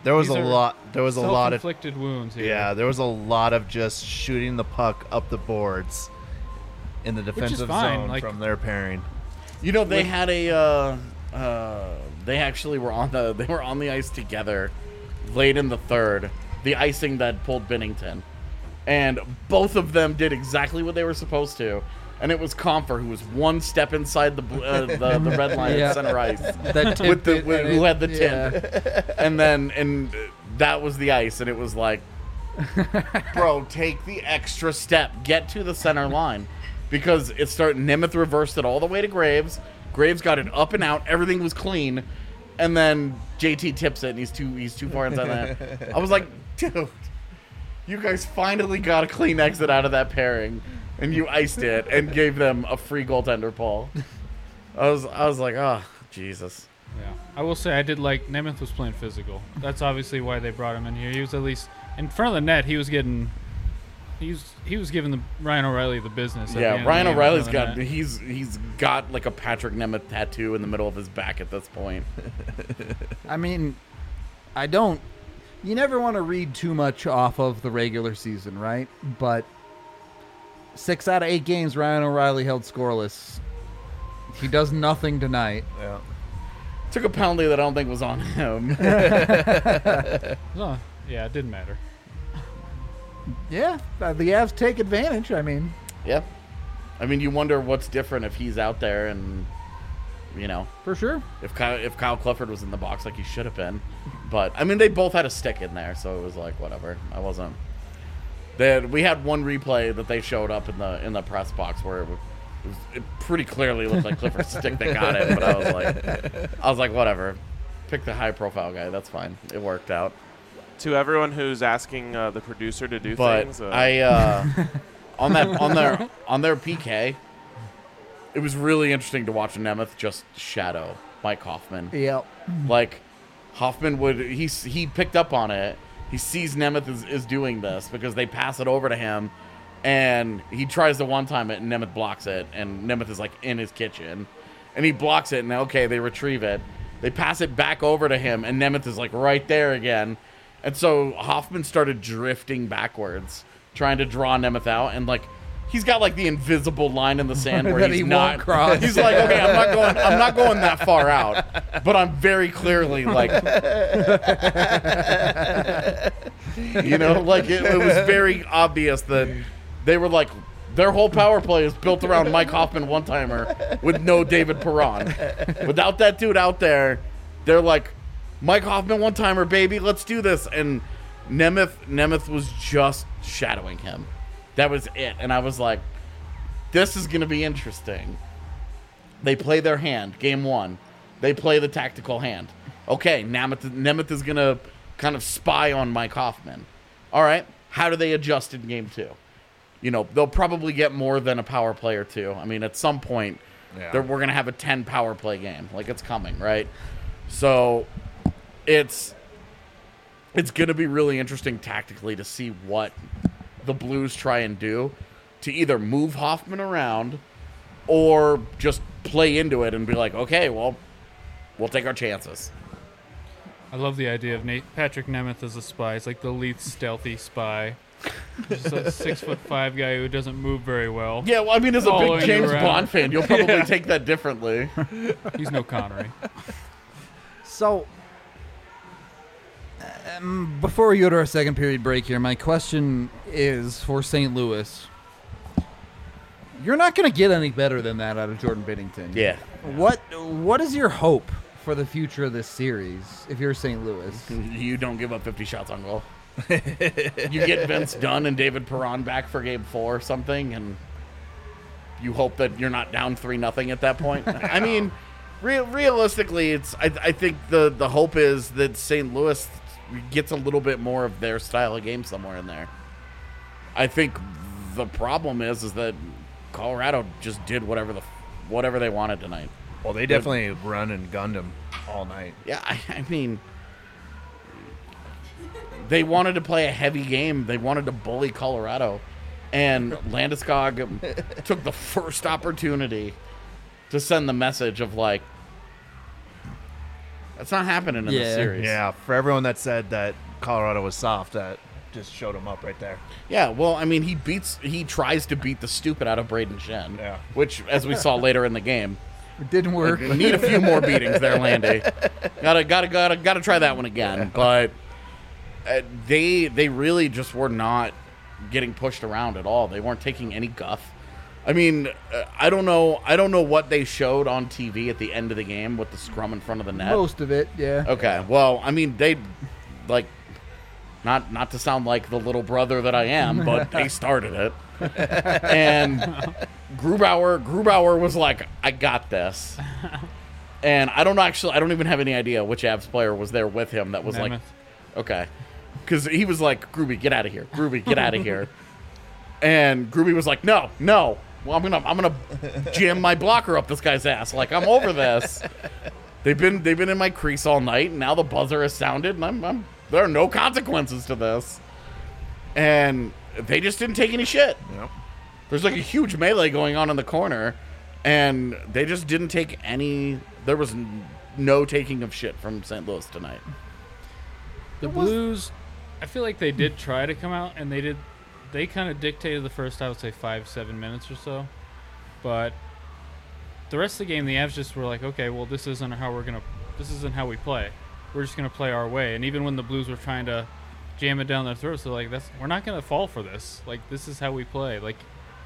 There was These a are lot. There was a lot of self-inflicted wounds here. yeah. There was a lot of just shooting the puck up the boards in the defensive fine, zone like- from their pairing. You know, they had a. Uh, uh, they actually were on the. They were on the ice together, late in the third. The icing that pulled Binnington, and both of them did exactly what they were supposed to. And it was Comfer who was one step inside the bl- uh, the, the red line Yeah. at center ice That with the tip, with, and who it- had the yeah. tip, and then and that was the ice, and it was like, bro, take the extra step, get to the center line, because it started. Nemeth reversed it all the way to Graves. Graves got it up and out. Everything was clean, and then J T tips it, and he's too he's too far inside that. I was like, dude, you guys finally got a clean exit out of that pairing, and you iced it and gave them a free goaltender, Paul. I was I was like, oh, Jesus. Yeah, I will say I did like Nemeth was playing physical. That's obviously why they brought him in here. He was at least in front of the net. He was getting, he was he was giving the Ryan O'Reilly the business. at the end Yeah, of the Ryan game in O'Reilly's front of got the net. he's he's got like a Patrick Nemeth tattoo in the middle of his back at this point. I mean, I don't. You never want to read too much off of the regular season, right? But six out of eight games, Ryan O'Reilly held scoreless. He does nothing tonight. Yeah. Took a penalty that I don't think was on him. Oh, yeah, it didn't matter. Yeah, uh, the Avs take advantage. I mean, Yeah. I mean, you wonder what's different if he's out there and, you know, for sure. if Kyle, if Kyle Clifford was in the box like he should have been. But, I mean, they both had a stick in there, so it was like, whatever. I wasn't. They had, we had one replay that they showed up in the in the press box where it, was, it, was, it pretty clearly looked like Clifford's stick that got it. But I was like, I was like, whatever. Pick the high-profile guy. That's fine. It worked out. To everyone who's asking uh, the producer to do But things, uh, I uh, on that on their on their P K, it was really interesting to watch Nemeth just shadow Mike Hoffman. Yep. Like Hoffman would he he picked up on it. He sees Nemeth is, is doing this because they pass it over to him, and he tries to one time it, and Nemeth blocks it, and Nemeth is like in his kitchen, and he blocks it, and okay, they retrieve it. They pass it back over to him, and Nemeth is like right there again. And so Hoffman started drifting backwards, trying to draw Nemeth out, and like he's got like the invisible line in the sand where That he's he not. won't cross. He's like, okay, I'm not going. I'm not going that far out, but I'm very clearly like, you know, like it, it was very obvious that they were like. Their whole power play is built around Mike Hoffman one-timer with no David Perron. Without that dude out there, they're like, Mike Hoffman one-timer, baby, let's do this. And Nemeth, Nemeth was just shadowing him. That was it. And I was like, this is going to be interesting. They play their hand, game one. They play the tactical hand. Okay, Nemeth, Nemeth is going to kind of spy on Mike Hoffman. All right, how do they adjust in game two? You know, they'll probably get more than a power play or two. I mean, at some point, Yeah. they're- we're going to have a ten power play game. Like, it's coming, right? So, it's it's going to be really interesting tactically to see what the Blues try and do to either move Hoffman around or just play into it and be like, okay, well, we'll take our chances. I love the idea of Nate, Patrick Nemeth as a spy. It's like the least stealthy spy. Just a six foot five guy who doesn't move very well. Yeah, well, I mean, as a Following big you James around. Bond fan, you'll probably take that differently. He's no Connery. So, um, before we go to our second period break here, my question is for Saint Louis. You're not going to get any better than that out of Jordan Binnington. Yeah. What What is your hope for the future of this series if you're Saint Louis? You don't give up fifty shots on goal. You get Vince Dunn and David Perron back for game four or something, and you hope that you're not down three nothing at that point. I mean, real, realistically, it's I, I think the, the hope is that Saint Louis gets a little bit more of their style of game somewhere in there. I think the problem is is that Colorado just did whatever the whatever they wanted tonight. Well, they definitely run and gunned him all night. Yeah, I, I mean, they wanted to play a heavy game. They wanted to bully Colorado. And Landeskog took the first opportunity to send the message of, like, That's not happening in Yeah. this series. Yeah, for everyone that said that Colorado was soft, that just showed them up right there. Yeah, well, I mean, he beats, he tries to beat the stupid out of Braden Shen. Yeah. Which, as we saw later in the game, It didn't work. need a few more beatings there, Landy. Gotta, gotta, gotta, gotta try that one again. But uh, they, they really just were not getting pushed around at all. They weren't taking any guff. I mean, uh, I don't know, I don't know what they showed on T V at the end of the game with the scrum in front of the net. Most of it, yeah. Okay, well, I mean, they, like, not not to sound like the little brother that I am, but they started it. And Grubauer, Grubauer was like, I got this. And I don't actually, I don't even have any idea which Avs player was there with him that was Nemeth. like, okay. Because he was like, Gruby, get out of here. Gruby, get out of here. And Gruby was like, no, no. Well, I'm gonna, I'm gonna jam my blocker up this guy's ass. Like, I'm over this. They've been, they've been in my crease all night, and now the buzzer has sounded, and I'm, I'm there are no consequences to this. And they just didn't take any shit. Yep. There's like a huge melee going on in the corner, and they just didn't take any. There was n- no taking of shit from Saint Louis tonight. The Blues, I feel like they did try to come out, and they did. They kind of dictated the first, I would say, five, seven minutes or so. But the rest of the game, the Avs just were like, okay, well, this isn't how we're gonna. This isn't how we play. We're just gonna play our way. And even when the Blues were trying to jam it down their throats, they're like, "That's we're not gonna fall for this. Like, this is how we play." Like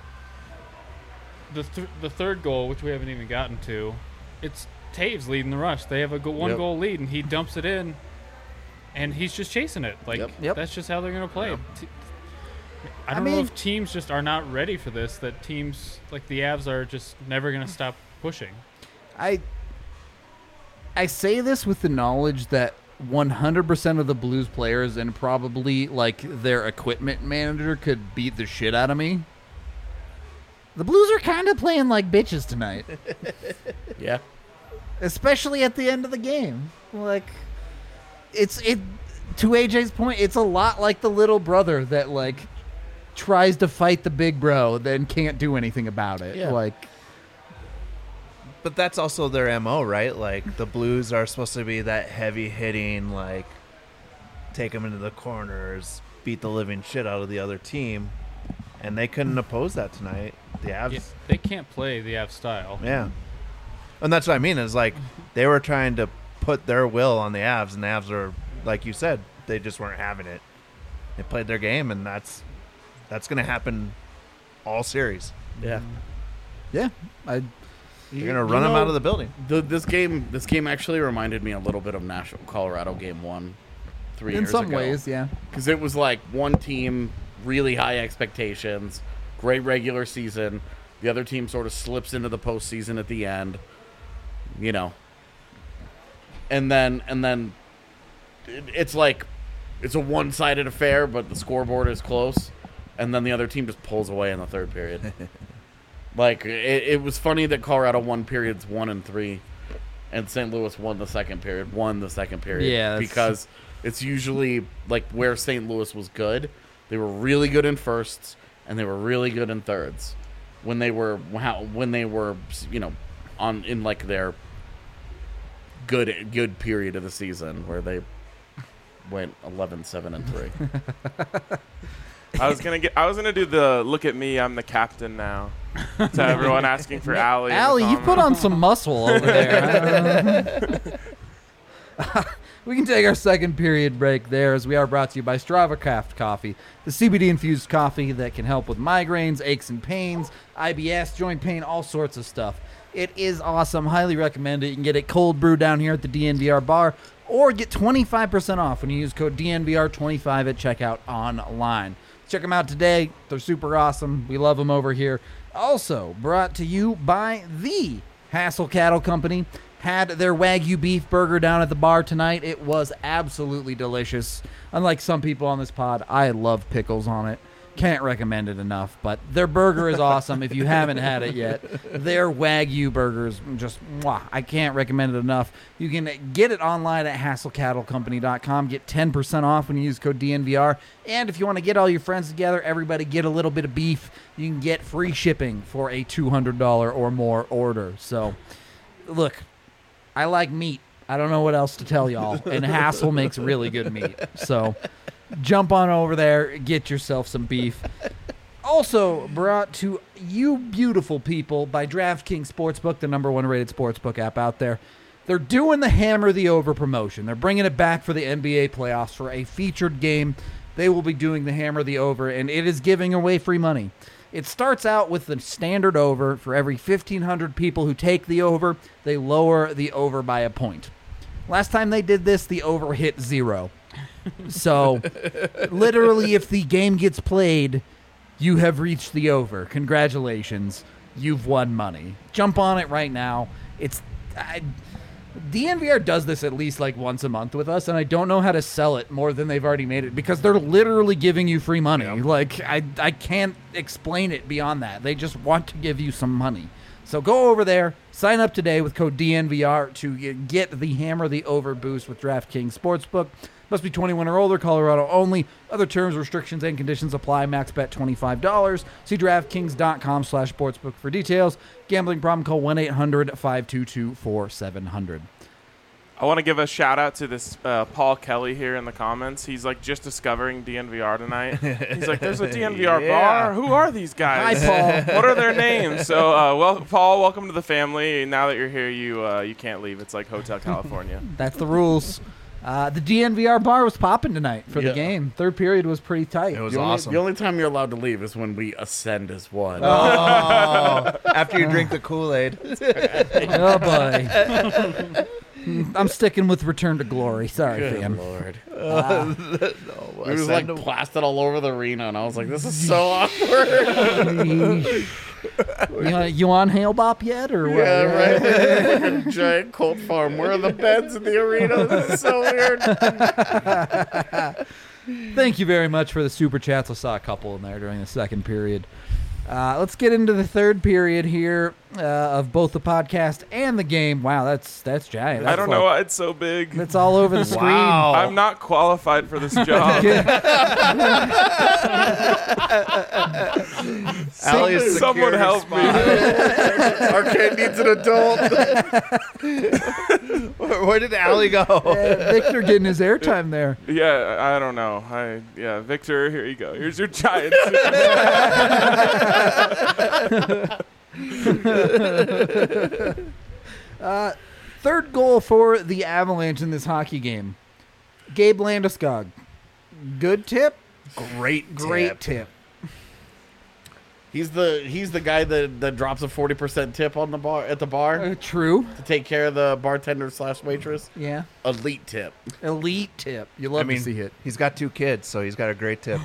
the th- the third goal, which we haven't even gotten to, it's Taves leading the rush. They have a go- one Yep. goal lead, and he dumps it in, and he's just chasing it. Like Yep. Yep. that's just how they're gonna play. Yep. T- I I don't know mean- if teams just are not ready for this. That teams like the Avs are just never gonna stop pushing. I I say this with the knowledge that one hundred percent of the Blues players and probably like their equipment manager could beat the shit out of me. The Blues are kind of playing like bitches tonight, Yeah. especially at the end of the game. Like it's it to A J's point, it's a lot like the little brother that like tries to fight the big bro then can't do anything about it. Yeah. Like But that's also their M O, right? Like, the Blues are supposed to be that heavy-hitting, like, take them into the corners, beat the living shit out of the other team, and they couldn't oppose that tonight. The Avs, Yeah, they can't play the Avs style. yeah. And that's what I mean, is, like, they were trying to put their will on the Avs, and the Avs are, like you said, they just weren't having it. They played their game, and that's that's going to happen all series. Yeah. yeah, I They're going to run them out of the building. The, this game, this game actually reminded me a little bit of Nashville, Colorado game one, three in years some ago. ways, yeah. Because it was like one team, really high expectations, great regular season. The other team sort of slips into the postseason at the end, you know. And then, and then, it, it's like, it's a one-sided affair, but the scoreboard is close, and then the other team just pulls away in the third period. Like, it, it was funny that Colorado won periods one and three, and Saint Louis won the second period, won the second period. Yeah, that's- because it's usually, like, where Saint Louis was good. They were really good in firsts, and they were really good in thirds. When they were, when they were, you know, on in, like, their good good period of the season, where they went eleven, seven, and three. I was gonna get. I was gonna do the look at me. I'm the captain now. To everyone asking for Allie. in the Allie, you put on comments. some muscle over there. We can take our second period break there, as we are brought to you by Strava Craft Coffee, the C B D-infused coffee that can help with migraines, aches and pains, I B S, joint pain, all sorts of stuff. It is awesome. Highly recommend it. You can get it cold brew down here at the D N V R bar, or get twenty-five percent off when you use code D N V R twenty-five at checkout online. Check them out today. They're super awesome. We love them over here. Also brought to you by the Hassel Cattle Company. Had their Wagyu beef burger down at the bar tonight. It was absolutely delicious. Unlike some people on this pod, I love pickles on it. Can't recommend it enough, but their burger is awesome. If you haven't had it yet, their Wagyu burgers, just mwah, I can't recommend it enough. You can get it online at hassel cattle company dot com. Get ten percent off when you use code D N V R. And if you want to get all your friends together, everybody get a little bit of beef, you can get free shipping for a two hundred dollars or more order. So, look, I like meat. I don't know what else to tell y'all. And Hassel makes really good meat. So jump on over there, get yourself some beef. Also brought to you beautiful people by DraftKings Sportsbook, the number one rated sportsbook app out there. They're doing the Hammer the Over promotion. They're bringing it back for the N B A playoffs for a featured game. They will be doing the Hammer the Over, and it is giving away free money. It starts out with the standard over. For every fifteen hundred people who take the over, they lower the over by a point. Last time they did this, the over hit zero. So, literally, if the game gets played, you have reached the over. Congratulations. You've won money. Jump on it right now. It's... I, D N V R does this at least like once a month with us, and I don't know how to sell it more than they've already made it because they're literally giving you free money. Yep. Like, I, I can't explain it beyond that. They just want to give you some money. So go over there, sign up today with code D N V R to get the Hammer the Over boost with DraftKings Sportsbook. Must be twenty-one or older, Colorado only. Other terms, restrictions, and conditions apply. Max bet twenty-five dollars. See DraftKings.com slash sportsbook for details. Gambling problem, call one eight hundred five two two four seven zero zero. I want to give a shout out to this uh, Paul Kelly here in the comments. He's like just discovering D N V R tonight. He's like, "There's a D N V R Yeah. bar. Who are these guys? Hi, Paul. What are their names?" So, uh, well, Paul, welcome to the family. Now that you're here, you uh, you can't leave. It's like Hotel California. That's the rules. Uh, the D N V R bar was popping tonight for Yeah. the game. Third period was pretty tight. It was The only, awesome. the only time you're allowed to leave is when we ascend as one. Oh, after you drink the Kool-Aid. Oh, boy. I'm sticking with Return to Glory. Sorry, Good fam. Lord. Uh, It was like plastered all over the arena, and I was like, this is so awkward. you, you on Hail Bop yet? Or what? Yeah, right? Like a giant Colt farm. Where are the beds in the arena? This is so weird. Thank you very much for the super chats. I saw a couple in there during the second period. Uh, let's get into the third period here uh, of both the podcast and the game. Wow, that's that's giant. That's I don't like- know why it's so big. That's all over the screen. Wow. I'm not qualified for this job. Allie is Someone security help me. spot. Arcade needs an adult. Where, where did Allie go? Uh, Victor getting his airtime there. Yeah, I don't know. I yeah, Victor, here you go. Here's your giant. uh, third goal for the Avalanche in this hockey game. Gabe Landeskog. Good tip. Great, Great tip. tip. He's the he's the guy that, that drops a forty percent tip on the bar at the bar Uh, true. to take care of the bartender slash waitress. Yeah. Elite tip. Elite tip. You love I mean, to see it. he's got two kids, so he's got a great tip.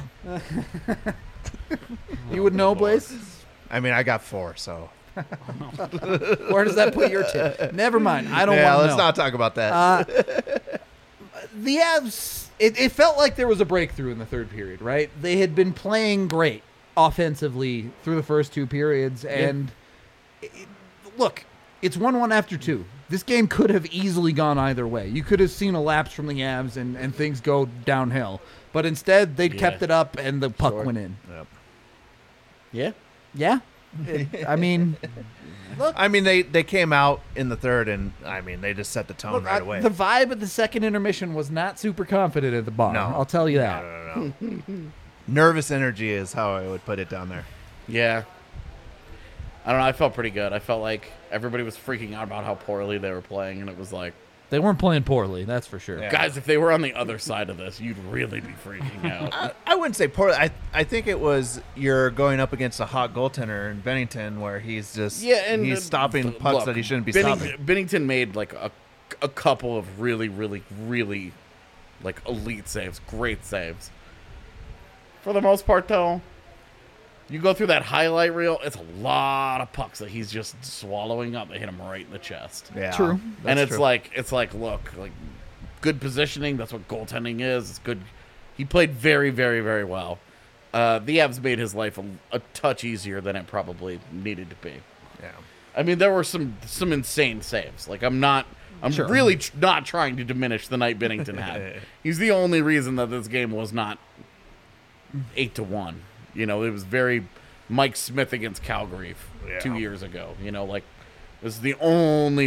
You would know, Blaze? I mean, I got four, so. Where does that put your tip? Never mind. I don't yeah, want to let's know. not talk about that. Uh, the Avs, it, it felt like there was a breakthrough in the third period, right? They had been playing great offensively through the first two periods. And it, look, it's one one after two. This game could have easily gone either way. You could have seen a lapse from the Avs and, and things go downhill. But instead, they'd Yeah. kept it up and the puck Sure. went in. Yep. Yeah. Yeah? It- I mean, look. I mean, they, they came out in the third, and I mean, they just set the tone Look, right I- away. the vibe at the second intermission was not super confident at the bar. No. I'll tell you that. No, no, no, no. Nervous energy is how I would put it down there. Yeah. I don't know. I felt pretty good. I felt like everybody was freaking out about how poorly they were playing, and it was like, They weren't playing poorly, that's for sure. Yeah. guys, if they were on the other side of this, you'd really be freaking out. I, I wouldn't say poorly. I I think it was you're going up against a hot goaltender in Bennington, where he's just Yeah, and he's uh, stopping look, pucks that he shouldn't be Benning- stopping. Bennington made like a, a couple of really, really, really like elite saves, great saves. For the most part, though, you go through that highlight reel, it's a lot of pucks that he's just swallowing up. They hit him right in the chest. Yeah, True. and that's it's true. like it's like look, like good positioning. That's what goaltending is. It's good. He played very, very, very well. Uh, the Avs made his life a, a touch easier than it probably needed to be. yeah. I mean, there were some some insane saves. Like I'm not, I'm Sure. really tr- not trying to diminish the night Bennington had. He's the only reason that this game was not eight to one. You know, it was very Mike Smith against Calgary f- Yeah. two years ago. You know, like this is the only. Re-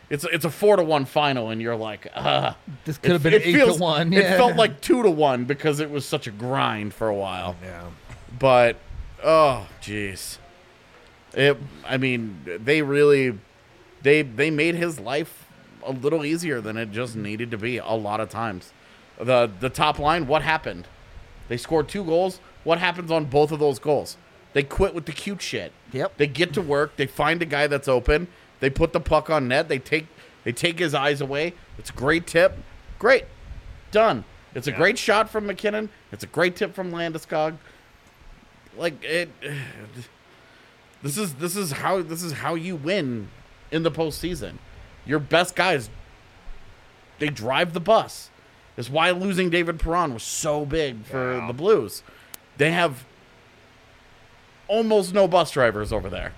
it's it's a four to one final, and you're like, uh, This could have it- been it eight feels- to one. It Yeah. felt like two to one because it was such a grind for a while. Yeah. But oh, jeez, it. I mean, they really, they they made his life a little easier than it just needed to be a lot of times. The the top line, what happened? They scored two goals. What happens on both of those goals? They quit with the cute shit. Yep. They get to work. They find a guy that's open. They put the puck on net. They take they take his eyes away. It's a great tip. Great. Done. It's a great shot from McKinnon. It's a great tip from Landeskog. Like it This is this is how this is how you win in the postseason. Your best guys, they drive the bus. That's why losing David Perron was so big for Yeah. the Blues. They have almost no bus drivers over there.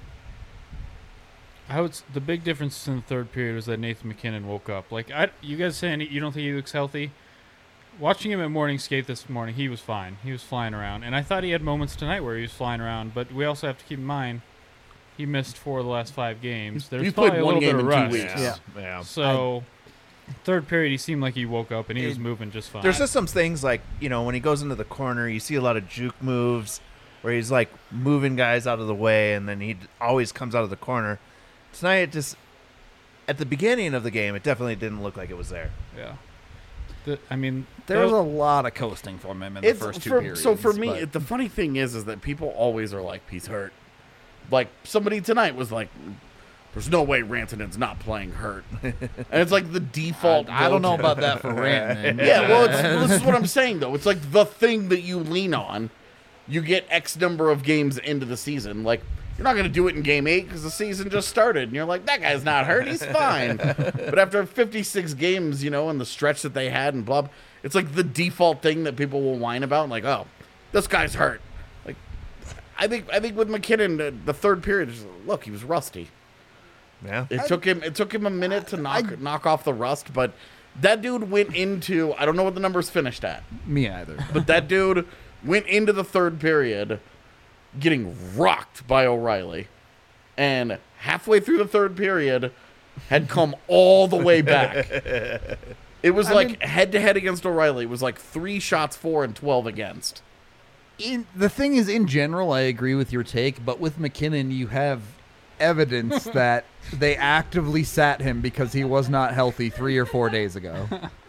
I would. s- The big difference in the third period was that Nathan McKinnon woke up. Like I, you guys saying you don't think he looks healthy? Watching him at morning skate this morning, he was fine. He was flying around, and I thought he had moments tonight where he was flying around. But we also have to keep in mind he missed four of the last five games. There's he's probably played a one little game bit of in rust. two weeks. Yeah. Yeah. So, third period, he seemed like he woke up and he was It- moving just fine. There's just some things like, you know, when he goes into the corner, you see a lot of juke moves where he's like moving guys out of the way, and then he d- always comes out of the corner. Tonight, it just at the beginning of the game, it definitely didn't look like it was there. yeah. The, I mean, There was that- a lot of coasting from him in the It's first two for, periods. so for me, but- it, the funny thing is, is that people always are like, "He's hurt." Like somebody tonight was like, "There's no way Rantanen's not playing hurt," and it's like the default. I don't know go-to. about that for Rantanen. Yeah, well, it's, this is what I'm saying though. It's like the thing that you lean on. You get X number of games into the season. Like you're not going to do it in game eight because the season just started, and you're like, that guy's not hurt. He's fine. But after fifty-six games, you know, and the stretch that they had and blah, blah, it's like the default thing that people will whine about. Like, oh, this guy's hurt. Like, I think I think with McKinnon, the, the third period, just, look, he was rusty. Yeah. It took him. It took him a minute to knock knock off the rust, but that dude went into. I don't know what the numbers finished at, Me either. but that dude went into the third period getting rocked by O'Reilly, and halfway through the third period had come all the way back. It was I like mean- head to head against O'Reilly. It was like three shots for and twelve against. In, the thing is, in general, I agree with your take, but with McKinnon, you have evidence that they actively sat him because he was not healthy three or four days ago.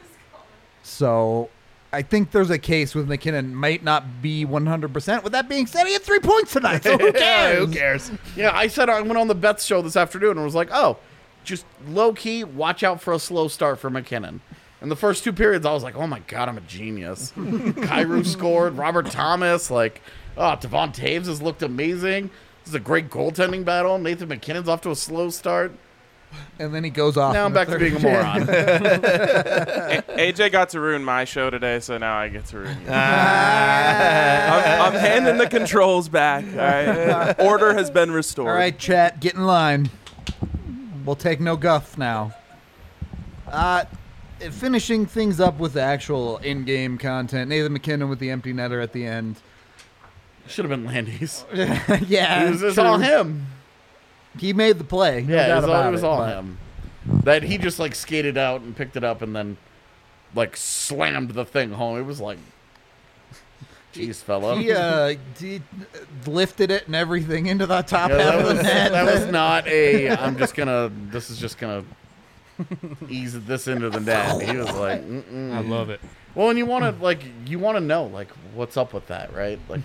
So I think there's a case with McKinnon might not be one hundred percent. With that being said, he had three points tonight, so who Yeah, cares? who cares? Yeah, I said I went on the Beth's show this afternoon and was like, oh, just low key, watch out for a slow start for McKinnon. In the first two periods, I was like, oh my God, I'm a genius. Kyrou scored, Robert Thomas, like, oh, Devon Taves has looked amazing. This is a great goaltending battle. Nathan McKinnon's off to a slow start. And then he goes off. Now in I'm the back to third. being a moron. A- AJ got to ruin my show today, so now I get to ruin you. I'm, I'm handing the controls back. All right, order has been restored. All right, chat, get in line. We'll take no guff now. Uh, finishing things up with the actual in-game content. Nathan McKinnon with the empty netter at the end. Should have been Landy's. yeah, It was, it was true. all him. He made the play. No Yeah, doubt it was all, about it was all but- him. That he just like skated out and picked it up and then like slammed the thing home. It was like, jeez, fella. He uh, he lifted it and everything into the top Yeah, half that of the was net. that was not a. I'm just gonna. This is just gonna ease this into the net. He was like, Mm-mm. I love it. well, and you want to like you want to know like what's up with that, right? Like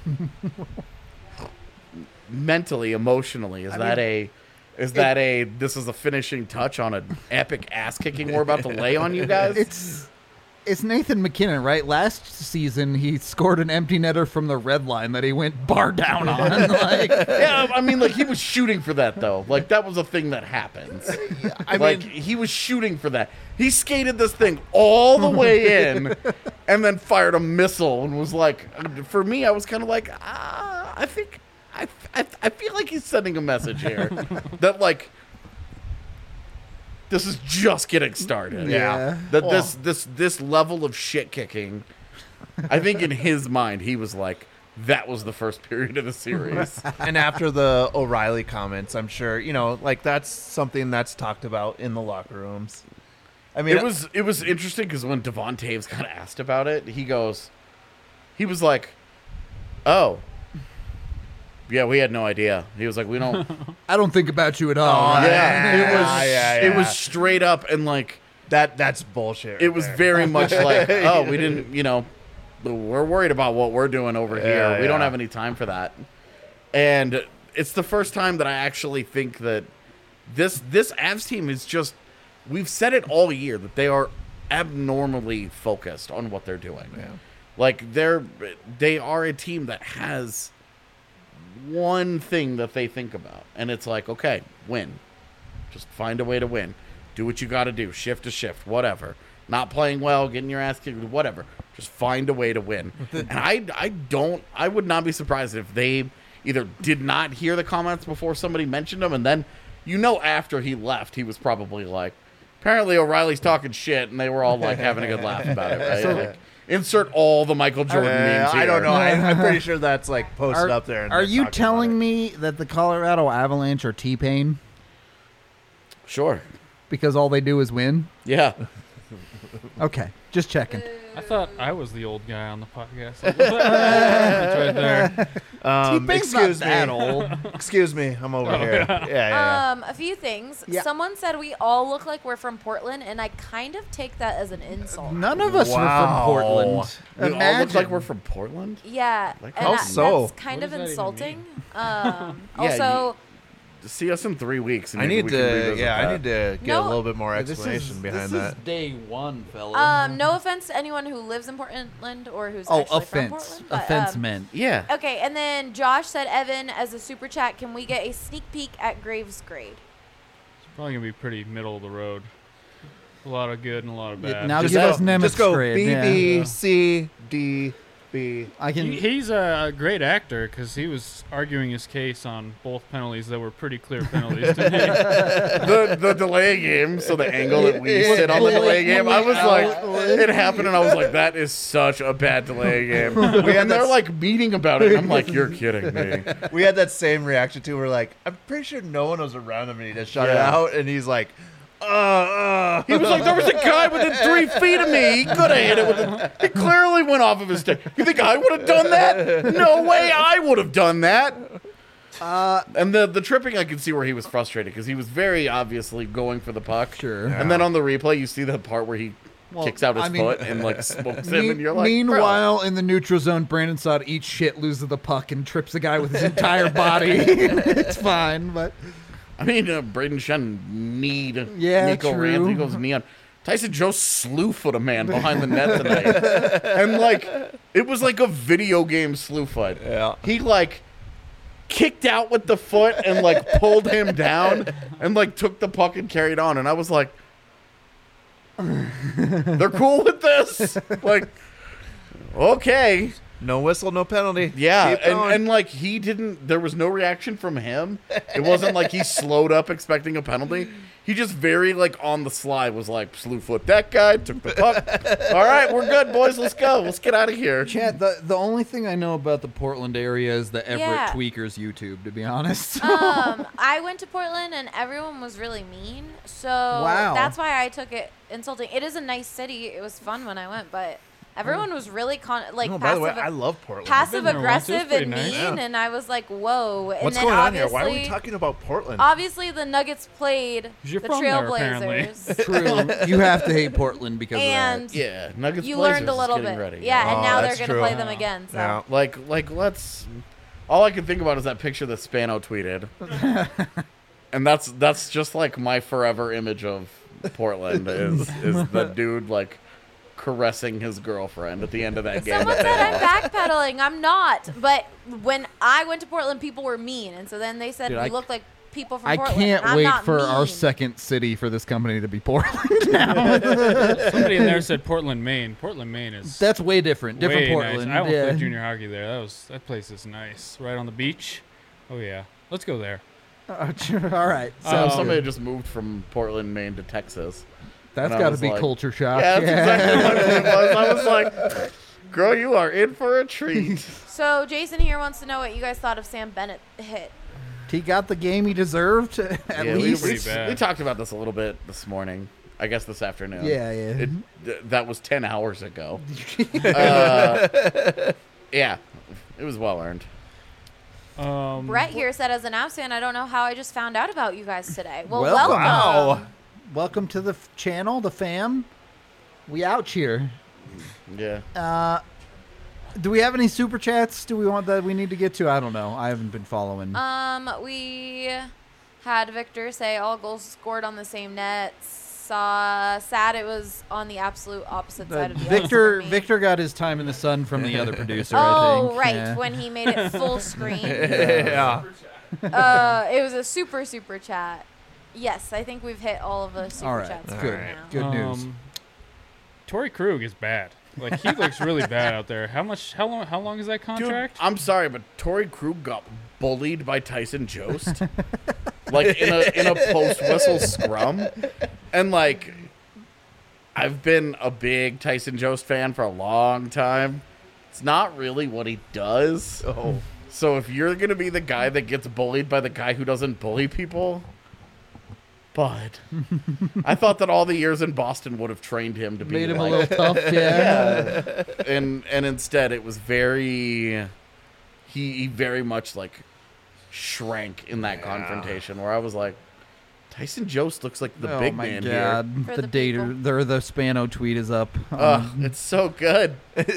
mentally, emotionally, is that a is that a this is a finishing touch on an epic ass kicking we're about to lay on you guys? It's it's Nathan McKinnon, right? Last season he scored an empty netter from the red line that he went bar down on. Like, Yeah, I mean, like he was shooting for that though. Like that was a thing that happens. I like mean, he was shooting for that. He skated this thing all the way in, and then fired a missile and was like, for me, I was kind of like, ah, I think, I, I, I feel like he's sending a message here that like. This is just getting started. Yeah. That this this this level of shit kicking, I think in his mind he was like, that was the first period of the series. And after the O'Reilly comments, I'm sure, you know, like that's something that's talked about in the locker rooms. I mean, it was it was interesting because when Devon Taves got asked about it, he goes, he was like, "Oh, yeah, we had no idea." He was like, "We don't." I don't think about you at all. Oh, right? yeah, it was yeah, yeah, it was yeah. straight up and like that that's bullshit. right it was there. very much like, "Oh, we didn't, you know, we're worried about what we're doing over Yeah, here. We don't yeah. have any time for that." And it's the first time that I actually think that this this Avs team is just. We've said it all year that they are abnormally focused on what they're doing. Yeah. Like they're they are a team that has one thing that they think about, and it's like, okay, win. Just find a way to win. Do what you got to do. Shift to shift, whatever. Not playing well, getting your ass kicked, whatever. Just find a way to win. And I I don't I would not be surprised if they either did not hear the comments before somebody mentioned them, and then you know after he left, he was probably like, apparently O'Reilly's talking shit, and they were all like having a good laugh about it, right? So- like, insert all the Michael Jordan Uh, memes here. I don't know. I, I'm pretty sure that's like posted Are, up there. and are they're you talking telling about me that the Colorado Avalanche are T-Pain Sure. because all they do is win? Yeah. Okay, just checking. I thought I was the old guy on the podcast. It's right there. it? Um, T-Pain's not excuse me. that old. Excuse me. I'm over Oh, here. Yeah, yeah. yeah. Um, a few things. Yeah. Someone said we all look like we're from Portland, and I kind of take that as an insult. None of us Wow. are from Portland. We all look Imagine. like we're from Portland? Yeah, Like, and how that- so? that's kind What of does that even insulting. Um, Yeah, also, See us in three weeks. And I maybe need we can to. revisit Yeah, that. I need to get No. a little bit more This is- explanation behind this that. is day one, fella. um, no offense to anyone who lives in Portland or who's oh, actually from offense. Portland. but, Offense um, meant. Yeah. Okay, and then Josh said, Evan, as a super chat, can we get a sneak peek at Graves' grade? It's probably gonna be pretty middle of the road. A lot of good and a lot of Yeah, bad. now Just give go, us Nemitz just go grade. B, yeah. B, C, D, B. I can. He, he's a great actor because he was arguing his case on both penalties that were pretty clear penalties to me. the the delay game, so the angle that we sit on the delay game, I was like, it happened, and I was like, that is such a bad delay game. And they're like meeting about it, and I'm like, you're kidding me. We had that same reaction too. We're like, I'm pretty sure no one was around him, and he just shot it Yeah. out, and he's like, uh, uh. He was like, there was a guy within three feet of me. He could have hit it with it. He clearly went off of his stick. You think I would have done that? No way I would have done that. Uh, And the the tripping, I could see where he was frustrated because he was very obviously going for the puck. Sure. And then on the replay, you see the part where he Well, kicks out his I mean- foot and like smokes him, Me- and you're like, bro. meanwhile, in the neutral zone, Brandon Saad eats shit, loses the puck, and trips the guy with his entire body. It's fine, but I mean, uh, Braden Shen kneed Yeah, Nico true. Rand. He goes knee on. Tyson Joe slew foot a man behind the net tonight, and like it was like a video game slew fight. Yeah. He like kicked out with the foot and like pulled him down and like took the puck and carried on. And I was like, they're cool with this. Like, okay. No whistle, no penalty. Yeah, Keep and, going. and like he didn't. There was no reaction from him. It wasn't like he slowed up expecting a penalty. He just very like on the sly was like slew foot that guy, took the puck. All right, we're good, boys. Let's go. Let's get out of here. Chad, the the only thing I know about the Portland area is the Everett Yeah. Tweakers YouTube. To be honest. um, I went to Portland and everyone was really mean, so Wow. that's why I took it insulting. It is a nice city. It was fun when I went, but everyone was really con like Oh, by the way, passive, I love Portland. passive I've been there once. It was aggressive and pretty mean, nice. and I was like, whoa. And What's then going on here? obviously, Why are we talking about Portland? obviously the Nuggets played 'Cause you're the from there, apparently. Trailblazers. True. You have to hate Portland because And of that. Yeah, Nuggets. you Blazers learned a is little getting bit. ready. Yeah, and Oh, now they're that's going to true. play them again. So. Yeah. Like, like let's. All I can think about is that picture that Spano tweeted, and that's that's just like my forever image of Portland is is the dude like caressing his girlfriend at the end of that game. Someone that they said I'm lost. backpedaling. I'm not. But when I went to Portland, people were mean, and so then they said Dude, we I- look like people from I Portland. can't and I'm wait not for our mean. second city for this company to be Portland now. Somebody in there said Portland, Maine. Portland, Maine is That's way different. Different way Portland. nice. I almost yeah. played junior hockey there. That was that place is nice, right on the beach. Oh yeah, let's go there. Oh, sure. All right. So Um, somebody just moved from Portland, Maine to Texas. That's and I got to was be like- culture shock. Yeah, that's exactly what it was. I was like, Girl, you are in for a treat. So Jason here wants to know what you guys thought of Sam Bennett hit. He got the game he deserved, at Yeah, we, least. we, Pretty bad. we talked about this a little bit this morning. I guess this afternoon. Yeah, yeah. It, th- that was ten hours ago. uh, yeah, it was well earned. Um, Brett here said, as an Avs fan, I don't know how I just found out about you guys today. Well, Welcome. welcome. Wow. Welcome to the f- channel, the fam. We out here. Yeah. Uh, do we have any super chats? Do we want that we need to get to? I don't know. I haven't been following. Um, we had Victor say all goals scored on the same net. Saw sad it was on the absolute opposite Uh, side of the ice Victor for me. Victor got his time in the sun from the other producer. I Oh, think. right, Yeah. when he made it full screen. Yeah. uh, it was a super super chat. Yes, I think we've hit all of the super All right. chats. Good. for now. Good news. Um, Torrey Krug is bad. Like he looks really bad out there. How much? How long? How long is that Dude, contract? I'm sorry, but Torrey Krug got bullied by Tyson Jost, like in a in a post whistle scrum, and like I've been a big Tyson Jost fan for a long time. It's not really what he does. Oh. So if you're gonna be the guy that gets bullied by the guy who doesn't bully people, but I thought that all the years in Boston would have trained him to be Made him a like, little tough. Yeah. and and instead it was very he, he very much like shrank in that confrontation where I was like, Tyson Jost looks like the oh big my man God. here. For The the data, people. the, the Spano tweet is up. Ugh, Um, it's so good.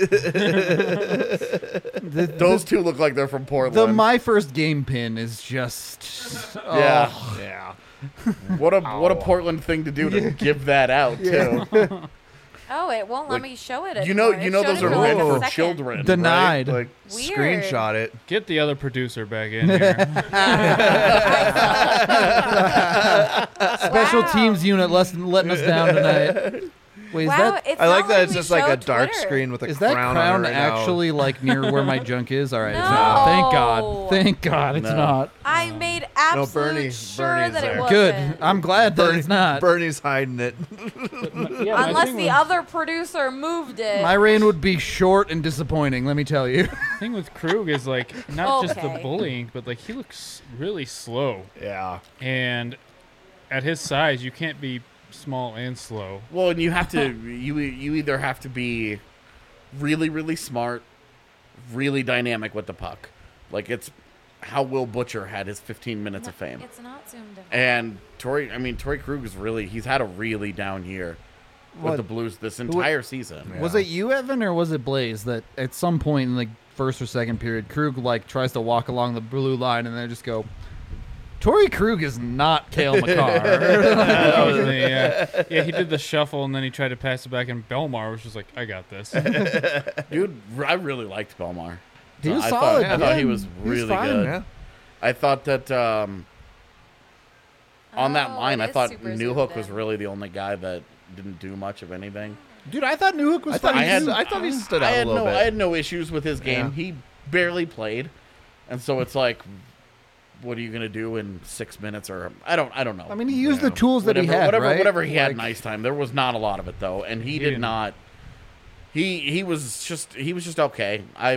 the, Those the, two look like they're from Portland. the my first game pin is just. yeah. oh. Yeah. What a what a Portland thing to do to give that out too. Oh, it won't let Like, me show it. You know anymore. you It know showed those it are for like meant a for second. children. right? Denied. Like, Weird. screenshot it. Get the other producer back in here. Special Wow. teams unit less, letting us down tonight. Wait, is Wow, that it's I like not that letting it's me just like show a dark Twitter. screen with a is that crown, crown on it right now. actually like near where my junk is? All right, it's No. not. Thank God. Thank God, it's No. not. I made absolute Bernie- sure Bernie's that it there. wasn't. Good. I'm glad that Bernie- it's not. Bernie's hiding it. Yeah, my Unless thing the with- other producer moved it. My reign would be short and disappointing. Let me tell you. thing with Krug is like not just the Okay. bullying, but like he looks really slow. Yeah. And at his size, you can't be small and slow. Well, and you have to you you either have to be really really smart, really dynamic with the puck. Like it's how Will Butcher had his fifteen minutes No, of fame. It's not zoomed in. And Torrey, I mean, Torrey Krug is really, he's had a really down year with What? the Blues this entire season. Was it you, Evan, or was it Blaze that at some point in the first or second period, Krug like tries to walk along the blue line and then just go, Torrey Krug is not Cale Makar. That was me, yeah. Yeah, he did the shuffle and then he tried to pass it back, and Belmar was just like, I got this. Dude, I really liked Belmar. He was I solid. Thought, I thought yeah. he was He really fine. good. Yeah. I thought that um, on that Oh, line, it I is thought super Newhook zoomed was in. really the only guy that didn't do much of anything. Dude, I thought Newhook was I thought, fine. he, I had- s- I thought he stood I out a had little no, bit. I had no issues with his game. Yeah. He barely played, and so it's like, what are you gonna do in six minutes? Or I don't, I don't know. I mean, he used Yeah. the tools that whatever, he had, whatever, right? whatever he had in Like, ice time. There was not a lot of it though, and he, He did didn't. not. He he was just he was just okay. I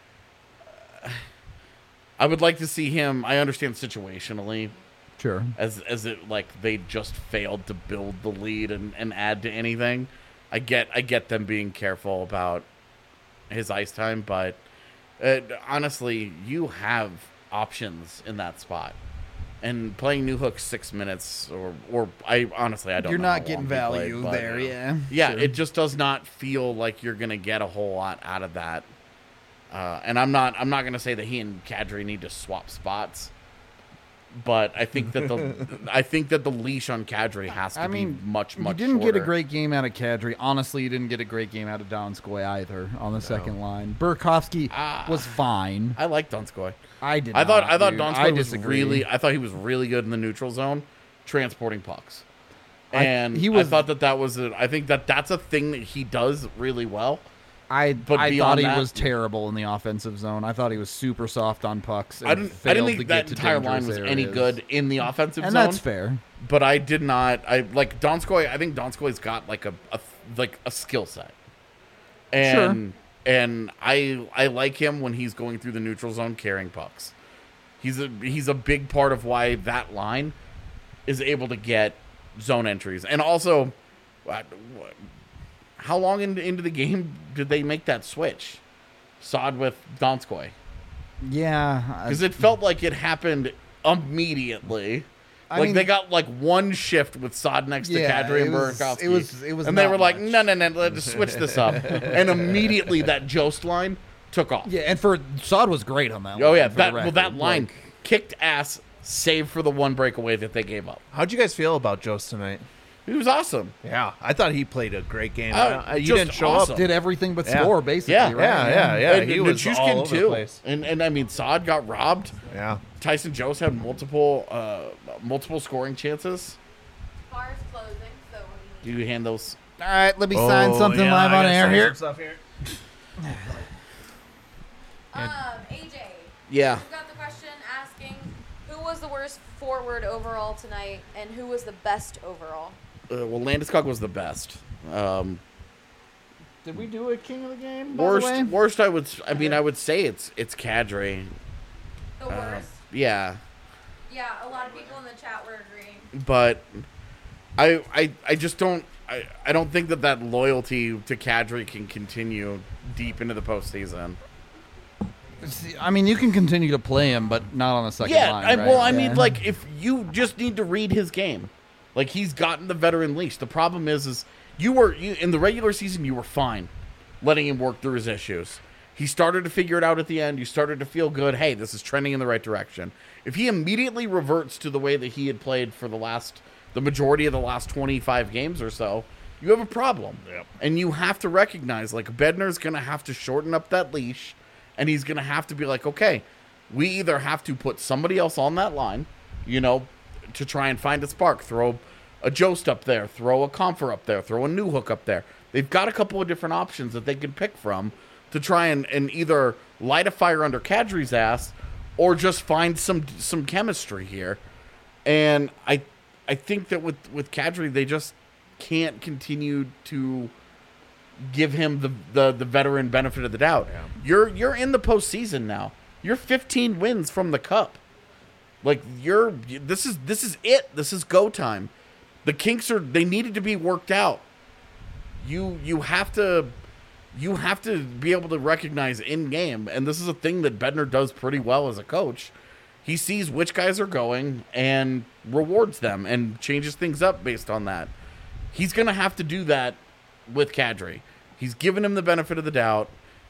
I would like to see him. I understand situationally Sure. as as it like they just failed to build the lead and, and add to anything. I get I get them being careful about his ice time, but uh, honestly, you have options in that spot. And playing Newhook six minutes, or or I honestly I don't. You're know not how getting long he played, value but, there, uh, yeah. Yeah, Sure. it just does not feel like you're gonna get a whole lot out of that. Uh, and I'm not I'm not gonna say that he and Kadri need to swap spots, but I think that the I think that the leash on Kadri has to I mean, be much much. You didn't get a shorter. great game out of Kadri. Honestly, you didn't get a great game out of Donskoy either on the second line. Burakovsky Ah. was fine. I like Donskoy. I did. I thought not, I thought dude. Donskoy I was disagree. really I thought he was really good in the neutral zone, transporting pucks. I- And he was- I thought that that was a, I think that that's a thing that he does really well. I But I thought beyond he that- was terrible in the offensive zone. I thought he was super soft on pucks. And I didn't I failed didn't to think get that to entire line dangerous was any areas. good in the offensive and zone. that's fair. But I did not. I like Donskoy. I think Donskoy's got like a, a like a skill set, and And I I like him when he's going through the neutral zone carrying pucks. He's a he's a big part of why that line is able to get zone entries. And also, how long in, into the game did they make that switch? Saad with Donskoy. Yeah. Because it felt like it happened immediately. I like mean, they got like one shift with Saad next to Yeah, Kadri it and was- Burakovsky. it was- it was and they not were like, much. no, no, no, let's switch this up. And immediately that Jost line took off. Yeah, and for Saad was great on that. Oh line, yeah, for that the well record. that line Like, kicked ass, save for the one breakaway that they gave up. How'd you guys feel about Jost tonight? He was awesome. Yeah, I thought he played a great game. Oh, Uh, you just didn't show awesome. up. did everything but Yeah. score basically. Yeah. right? Yeah, yeah, yeah. and he was Nichushkin all over too. the place. And and I mean, Saad got robbed. Yeah. Tyson Jost had multiple uh, multiple scoring chances. Bar's closing, so Do you hand those? All right, let me sign Oh, something yeah, live I on gotta air sign here. some stuff here. Um, A J, Yeah. we've got the question asking who was the worst forward overall tonight and who was the best overall? Uh, well, Landeskog was the best. Um, Did we do a king of the game? By worst, the way? worst. I would. s- I mean, I would say it's it's Kadri. The Uh, worst? yeah, Yeah, a lot of people in the chat were agreeing. but I I I just don't. I, I don't think that that loyalty to Kadri can continue deep into the postseason. See, I mean, you can continue to play him, but not on the second Yeah, line. I, right? well, I Yeah. mean, like if you just need to read his game, like he's gotten the veteran leash. The problem is, is you were you, in the regular season, you were fine letting him work through his issues. He started to figure it out at the end. You started to feel good. Hey, this is trending in the right direction. If he immediately reverts to the way that he had played for the last, the majority of the last twenty-five games or so, you have a problem. Yep. And you have to recognize, like, Bednar's going to have to shorten up that leash, and he's going to have to be like, okay, we either have to put somebody else on that line, you know, to try and find a spark, throw a Jost up there, throw a Comfer up there, throw a New Hook up there. They've got a couple of different options that they can pick from to try and, and either light a fire under Kadri's ass or just find some some chemistry here. And I I think that with, with Kadri, they just can't continue to give him the, the, the veteran benefit of the doubt. Yeah. You're you're in the postseason now. You're fifteen wins from the cup. Like you're this is this is it. This is go time. The kinks are they needed to be worked out. You you have to you have to be able to recognize in game, and this is a thing that Bednar does pretty well as a coach. He sees which guys are going and rewards them and changes things up based on that. He's going to have to do that with Kadri. He's given him the benefit of the doubt.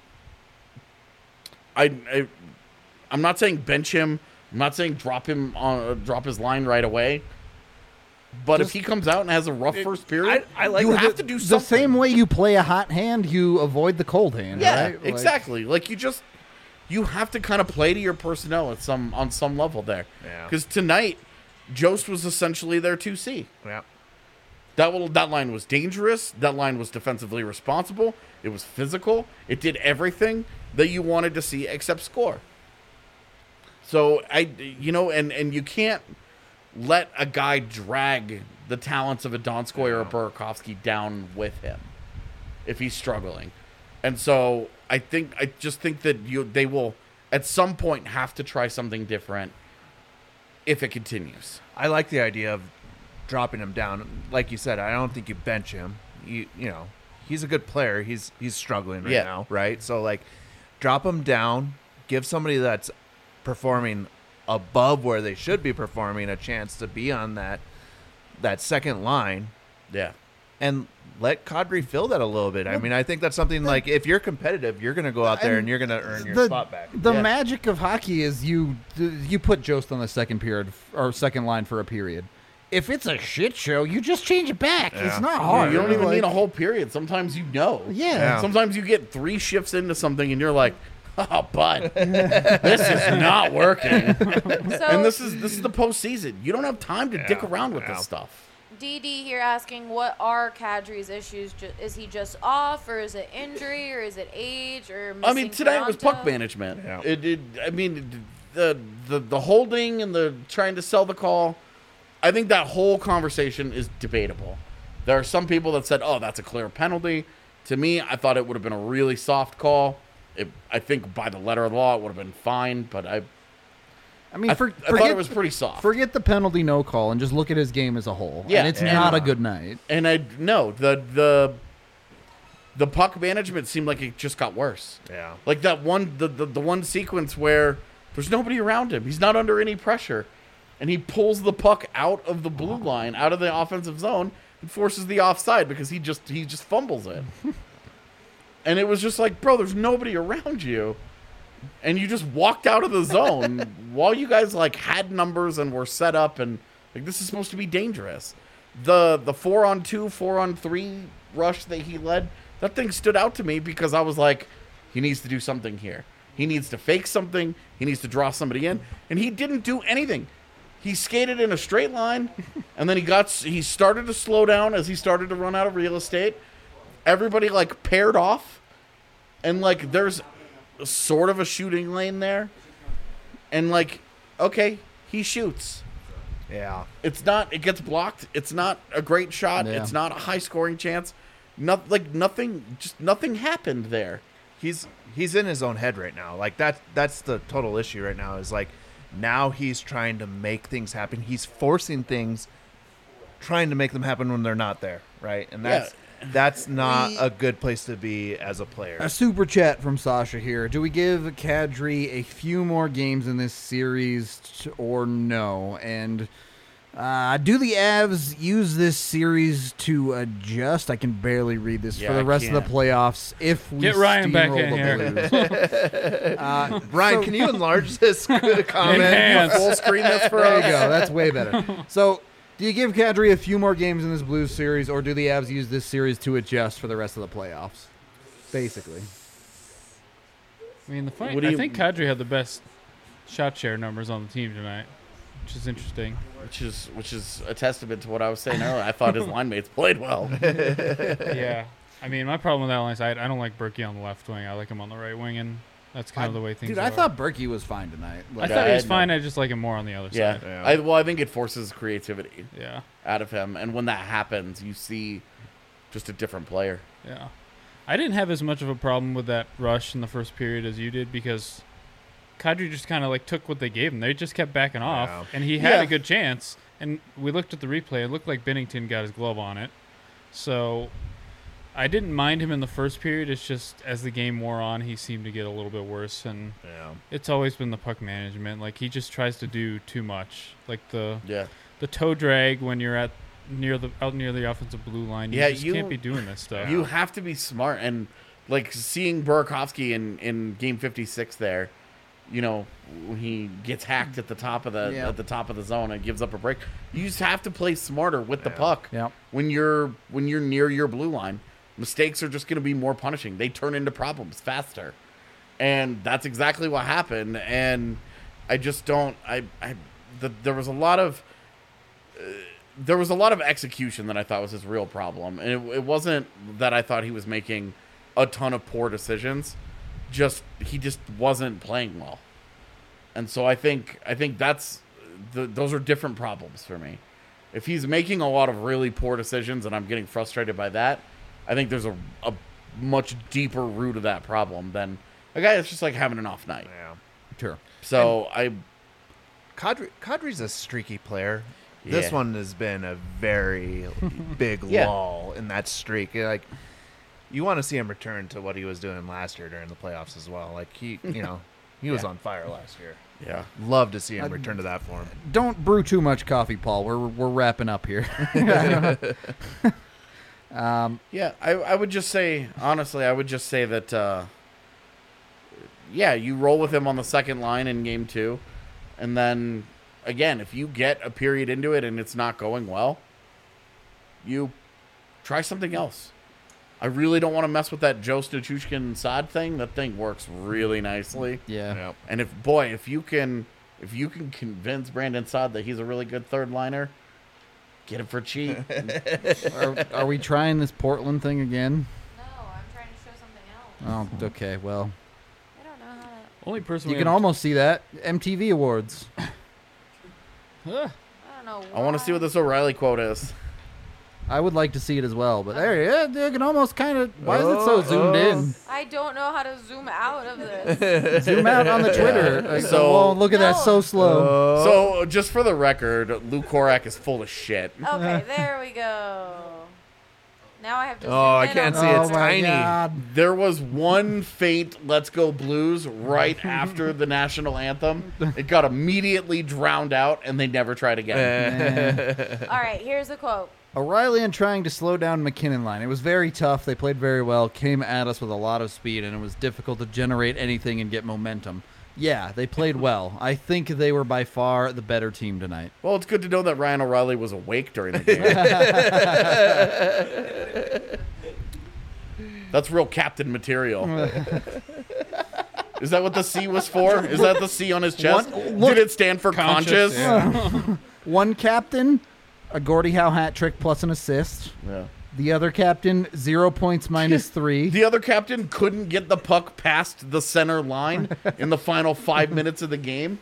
I, I I'm not saying bench him. I'm not saying drop him on uh, drop his line right away. But Just- if he comes out and has a rough first period, I- I like you the- have to do the something. same way you play a hot hand, you avoid the cold hand. Yeah, right? Like, exactly. Like you just you have to kind of play to your personnel at some on some level there. Yeah. Because tonight, Jost was essentially their two C. Yeah. That will, that line was dangerous. That line was defensively responsible. It was physical. It did everything that you wanted to see except score. So I, you know, and and you can't let a guy drag the talents of a Donskoy or a Burakovsky down with him if he's struggling. And so I think I just think that you they will at some point have to try something different if it continues. I like the idea of dropping him down. Like you said, I don't think you bench him. You you know, he's a good player. He's he's struggling right Yeah. now, right? So like drop him down, give somebody that's performing above where they should be performing a chance to be on that that second line, Yeah. and let Kadri fill that a little bit. I mean, I think that's something like if you're competitive, you're going to go out there And and you're going to earn your the, spot back. The Yeah. magic of hockey is you you put Jost on the second period or second line for a period. If it's a shit show, you just change it back. Yeah. It's not hard. You don't even Like, need a whole period. Sometimes you know. Yeah. Yeah. Sometimes you get three shifts into something and you're like, oh, bud, this is not working. So And this is this is the postseason. You don't have time to dick Yeah. around with Yeah. this stuff. D D here asking, what are Kadri's issues? Ju- Is he just off, or is it injury, or is it age, or missing I mean, tonight was puck Toronto? management. Yeah. It, it, I mean, the, the the holding and the trying to sell the call. I think that whole conversation is debatable. There are some people that said, "Oh, that's a clear penalty." To me, I thought it would have been a really soft call. It, I think by the letter of the law, it would have been fine, but I I mean, I, for, I forget, thought it was pretty soft. Forget the penalty no call and just look at his game as a whole. Yeah, and it's and- not a good night. And I no the the the puck management seemed like it just got worse. Yeah. Like that one the, the the one sequence where there's nobody around him. He's not under any pressure, and he pulls the puck out of the blue line, out of the offensive zone, and forces the offside because he just he just fumbles it. And it was just like, bro, there's nobody around you. And you just walked out of the zone while you guys like had numbers and were set up, and like this is supposed to be dangerous. The the four on two, four on three rush that he led, that thing stood out to me because I was like, he needs to do something here. He needs to fake something. He needs to draw somebody in, and he didn't do anything. He skated in a straight line, and then he got he started to slow down as he started to run out of real estate. Everybody like paired off, and like there's sort of a shooting lane there, and like okay, he shoots. Yeah. It's not. It gets blocked. It's not a great shot. Yeah. It's not a high scoring chance. Not like nothing. Just nothing happened there. He's he's in his own head right now. Like that that's the total issue right now is like now he's trying to make things happen. He's forcing things, trying to make them happen when they're not there, right? And that's Yeah. that's not We- a good place to be as a player. A super chat from Sasha here. Do we give Kadri a few more games in this series t- or no? And uh, do the Avs use this series to adjust? I can barely read this Yeah, for the I rest of can't. the playoffs. If we Get Ryan back steamroll in the here. Blues. uh, Ryan, so- can you enlarge this comment? Enhance. Full screen this for There us. you go. That's way better. So, do you give Kadri a few more games in this Blues series, or do the Avs use this series to adjust for the rest of the playoffs? Basically. I mean, the funny, What do I you- think Kadri had the best shot share numbers on the team tonight, which is interesting. Which is which is a testament to what I was saying earlier. I thought his line mates played well. Yeah. I mean, my problem with that line side, I don't like Berkey on the left wing. I like him on the right wing, and that's kind of the way things Dude, are. I thought Berkey was fine tonight. I Like, thought he I was had fine. I just like him more on the other Yeah. side. Yeah. I, well, I think it forces creativity Yeah. out of him, and when that happens, you see just a different player. Yeah. I didn't have as much of a problem with that rush in the first period as you did because Kadri just kind of like took what they gave him. They just kept backing off, Yeah. and he had Yeah. a good chance. And we looked at the replay. It looked like Bennington got his glove on it. So I didn't mind him in the first period. It's just as the game wore on, he seemed to get a little bit worse. And Yeah. it's always been the puck management. Like he just tries to do too much. Like the Yeah. the toe drag when you're at near the out near the offensive blue line. You Yeah, just you- can't be doing this stuff. You have to be smart, and like seeing Burakovsky in, in game fifty-six there, you know, when he gets hacked at the top of the Yeah. at the top of the zone and gives up a break. You just have to play smarter with the Yeah. puck. Yep. When you're when you're near your blue line, mistakes are just going to be more punishing. They turn into problems faster, and that's exactly what happened. And I just don't. I I the, there was a lot of. Uh, there was a lot of execution that I thought was his real problem. And it, it wasn't that I thought he was making a ton of poor decisions. Just he just wasn't playing well. And so I think I think that's the, those are different problems for me. If he's making a lot of really poor decisions and I'm getting frustrated by that, I think there's a, a much deeper root of that problem than a guy that's just like having an off night. Yeah. Sure. So I Kadri, Kadri's a streaky player. This Yeah. one has been a very big Yeah. lull in that streak. Like, you want to see him return to what he was doing last year during the playoffs as well. Like he, you know, he was Yeah. on fire last year. yeah. Love to see him Uh, return to that form. Don't brew too much coffee, Paul. We're we're wrapping up here. um, Yeah, I, I would just say, honestly, I would just say that, uh, yeah, you roll with him on the second line in game two. And then, again, if you get a period into it and it's not going well, you try something else. I really don't want to mess with that Joe Stachushkin Saad thing. That thing works really nicely. yeah. Yep. And if, boy, if you can if you can convince Brandon Saad that he's a really good third liner, get him for cheap. Are, are we trying this Portland thing again? No, I'm trying to show something else. Oh, okay. Well, I don't know how to. Only person you we can have- almost see that M T V Awards. Ugh. I don't know. I want to see what this O'Reilly quote is. I would like to see it as well, but there, yeah, you can almost kind of. Why is it so zoomed in? I don't know how to zoom out of this. Zoom out on the Twitter. Like, So- oh, look at that, No. so slow. So, just for the record, Lou Korak is full of shit. Okay, there we go. Now I have to. Oh, zoom I in can't on see, the- it's oh my tiny. God. There was one faint Let's Go Blues right after the national anthem. It got immediately drowned out, and they never tried again. All right, here's a quote. O'Reilly and trying to slow down McKinnon line. It was very tough. They played very well, came at us with a lot of speed, and it was difficult to generate anything and get momentum. Yeah, they played well. I think they were by far the better team tonight. Well, it's good to know that Ryan O'Reilly was awake during the game. That's real captain material. Is that what the C was for? Is that the C on his chest? One- look- Did it stand for conscious? yeah. One captain, a Gordie Howe hat trick plus an assist. Yeah. The other captain, zero points minus three. The other captain couldn't get the puck past the center line in the final five minutes of the game.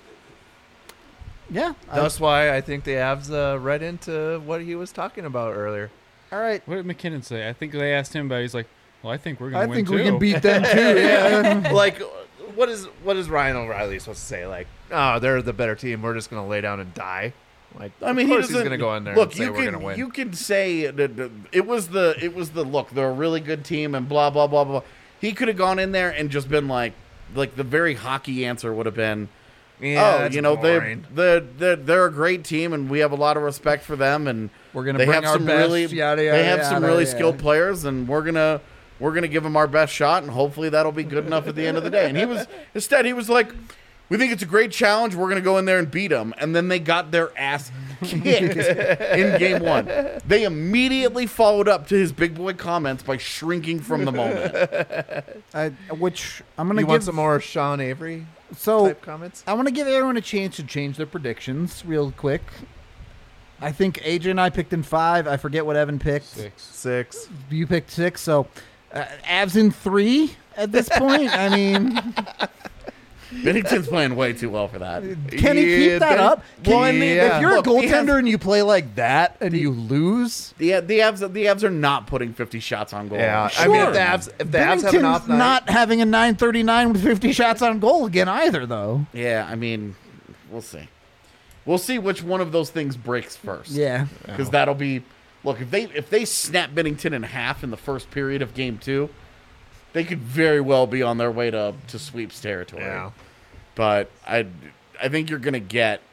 Yeah. I- That's why I think the Avs uh, read into what he was talking about earlier. all right. What did McKinnon say? I think they asked him about it. He's like, well, I think we're going I to win think too. we can beat them too. Yeah. Like, what is what is Ryan O'Reilly supposed to say? Like, oh, they're the better team. We're just going to lay down and die. Like, I mean, of he course he's doesn't- going to go in there Look, and say you we're can going to win. you can say that that it was the it was the look. They're a really good team and blah blah blah blah. He could have gone in there and just been like, like the very hockey answer would have been, yeah, oh, that's you know, they boring. they they're, they're a great team and we have a lot of respect for them and We're gonna they bring have our some best, really yada, they yada, have some yada, really yeah. skilled players and we're gonna we're gonna give them our best shot and hopefully that'll be good enough at the end of the day. And he was instead he was like, we think it's a great challenge. We're going to go in there and beat them. And then they got their ass kicked in game one. They immediately followed up to his big boy comments by shrinking from the moment. I, which I'm gonna You give want some more Sean Avery so type comments? I want to give everyone a chance to change their predictions real quick. I think A J and I picked in five. I forget what Evan picked. Six. Six. You picked six. So uh, Avs in three at this point. I mean, Bennington's playing way too well for that. can he Yeah, keep that Ben- up? Can, Well, I mean, if you're look, a he goaltender has- and you play like that and you lose, The the Avs the Avs are not putting fifty shots on goal. Yeah, I mean, if the Avs, if the Avs have an Bennington's off night, not having a nine thirty-nine with fifty shots on goal again either, though. Yeah, I mean, we'll see. We'll see which one of those things breaks first. Yeah. Because that'll be look if they if they snap Bennington in half in the first period of game two, they could very well be on their way to to sweeps territory. Yeah. But I I think you're gonna get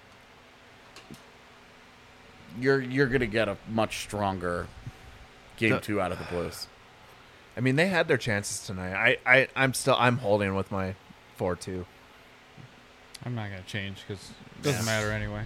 you're you're gonna get a much stronger game The- two out of the Blues. I mean, they had their chances tonight. I, I, I'm still, I'm holding with my four two. I'm not going to change because it doesn't matter anyway.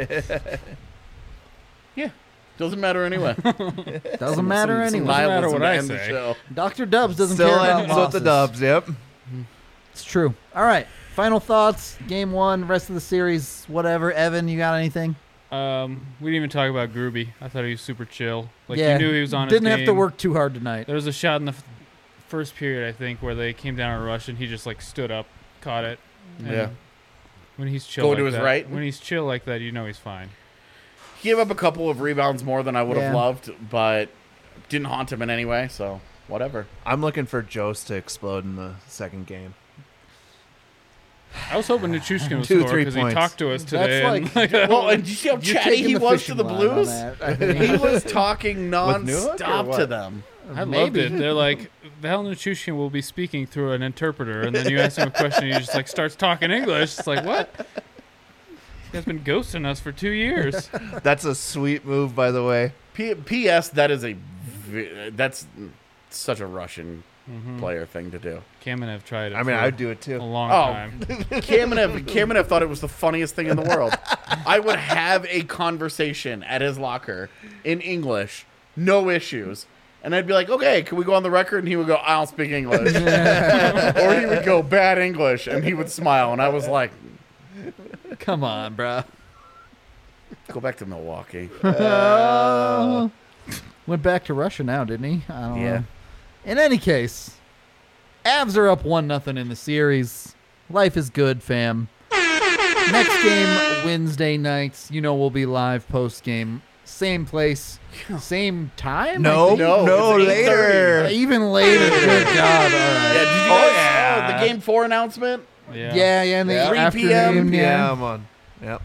Yeah. Doesn't matter anyway. Doesn't matter Some- some anyway. matter nihilism what to I end the say. show. Doctor Dubs doesn't Still care about ends with the losses. Dubs. Yep. It's true. All right. Final thoughts. Game one. Rest of the series. Whatever. Evan, you got anything? Um, we didn't even talk about Groovy. I thought he was super chill. Like yeah. you knew he was on. Didn't his have to game. work too hard tonight. There was a shot in the f- first period, I think, where they came down a rush and he just like stood up, caught it. And Yeah. When he's chill, Go like to his that, right? When he's chill like that, you know he's fine. He gave up a couple of rebounds more than I would have Yeah. loved, but didn't haunt him in any way, so whatever. I'm looking for Jost to explode in the second game. I was hoping Nichushkin would Two, score three because he points. talked to us That's today. and, like- Well, and did you see how You're chatty taking he the was fishing to the line on Blues? that, I think. He was talking Newhook or non-stop what? to them. I loved Maybe. it. They're like, Val Nichushkin will be speaking through an interpreter, and then you ask him a question, and he just like starts talking English. It's like, what? This guy's been ghosting us for two years. That's a sweet move, by the way. P- P.S. That is a v- that's such a Russian player thing to do. Kamenev tried it. I mean, for I'd do it a too. long Oh. time. Kamenev, Kamenev thought it was the funniest thing in the world. I would have a conversation at his locker in English, no issues. And I'd be like, okay, can we go on the record? And he would go, I don't speak English. Or he would go, bad English. And he would smile. And I was like, Come on, bro. go back to Milwaukee. Uh, Went back to Russia now, didn't he? I don't Yeah. know. In any case, Avs are up one nothing in the series. Life is good, fam. Next game Wednesday nights. You know we'll be live post game. same place, same time. No, I think? no, No, it's eight later. thirty. even later. Good God! All Yeah, right. did you Oh, guys yeah. oh, the game four announcement? Yeah. Yeah, yeah, in the Yeah. three afternoon. p.m. Yeah. Yeah, I'm on. Yep.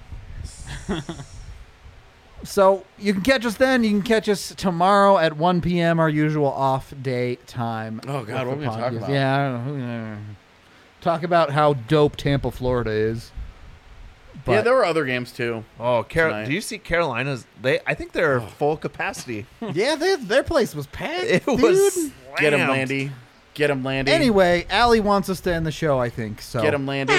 So you can catch us then. You can catch us tomorrow at one p.m. our usual off day time. Oh, God, what are we gonna talk Podcast. about? Yeah, I don't know. Talk about how dope Tampa, Florida is. But Yeah, there were other games too. Oh, Carol, Tonight. do you see Carolina's? They, I think they're full capacity. yeah, they, their place was packed. It dude. was Get him, slammed. Landy. Get him, Landy. Anyway, Allie wants us to end the show. I think so. Get him, Landy.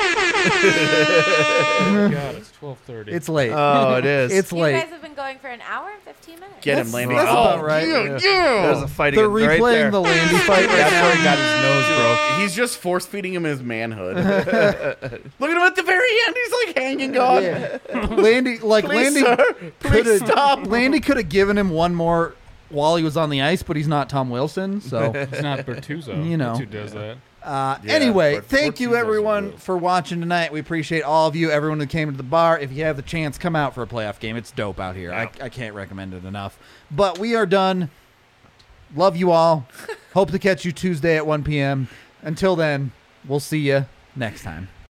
Oh, God, it's twelve thirty. It's late. Oh, it is. it's You late. guys have been going for an hour and fifteen minutes. Get him, That's- Landy. that's oh, about right. Yeah, Yeah. There's yeah. a fight They're again right replaying there. the Landy fight right That's now. where he got his nose broke. He's just force feeding him his manhood. Look at him at the very end. He's like hanging on. Yeah. Landy, like Please, Landy, sir. Please coulda- stop. Landy could have given him one more while he was on the ice, but he's not Tom Wilson, so. It's not Bertuzzo. You know. That's who does that. Uh, Yeah, anyway, but thank you Fortune's everyone also good. for watching tonight. We appreciate all of you, everyone who came to the bar. If you have the chance, come out for a playoff game. It's dope out here. I, I can't recommend it enough. But we are done. Love you all. Hope to catch you Tuesday at one p.m. Until then, we'll see you next time.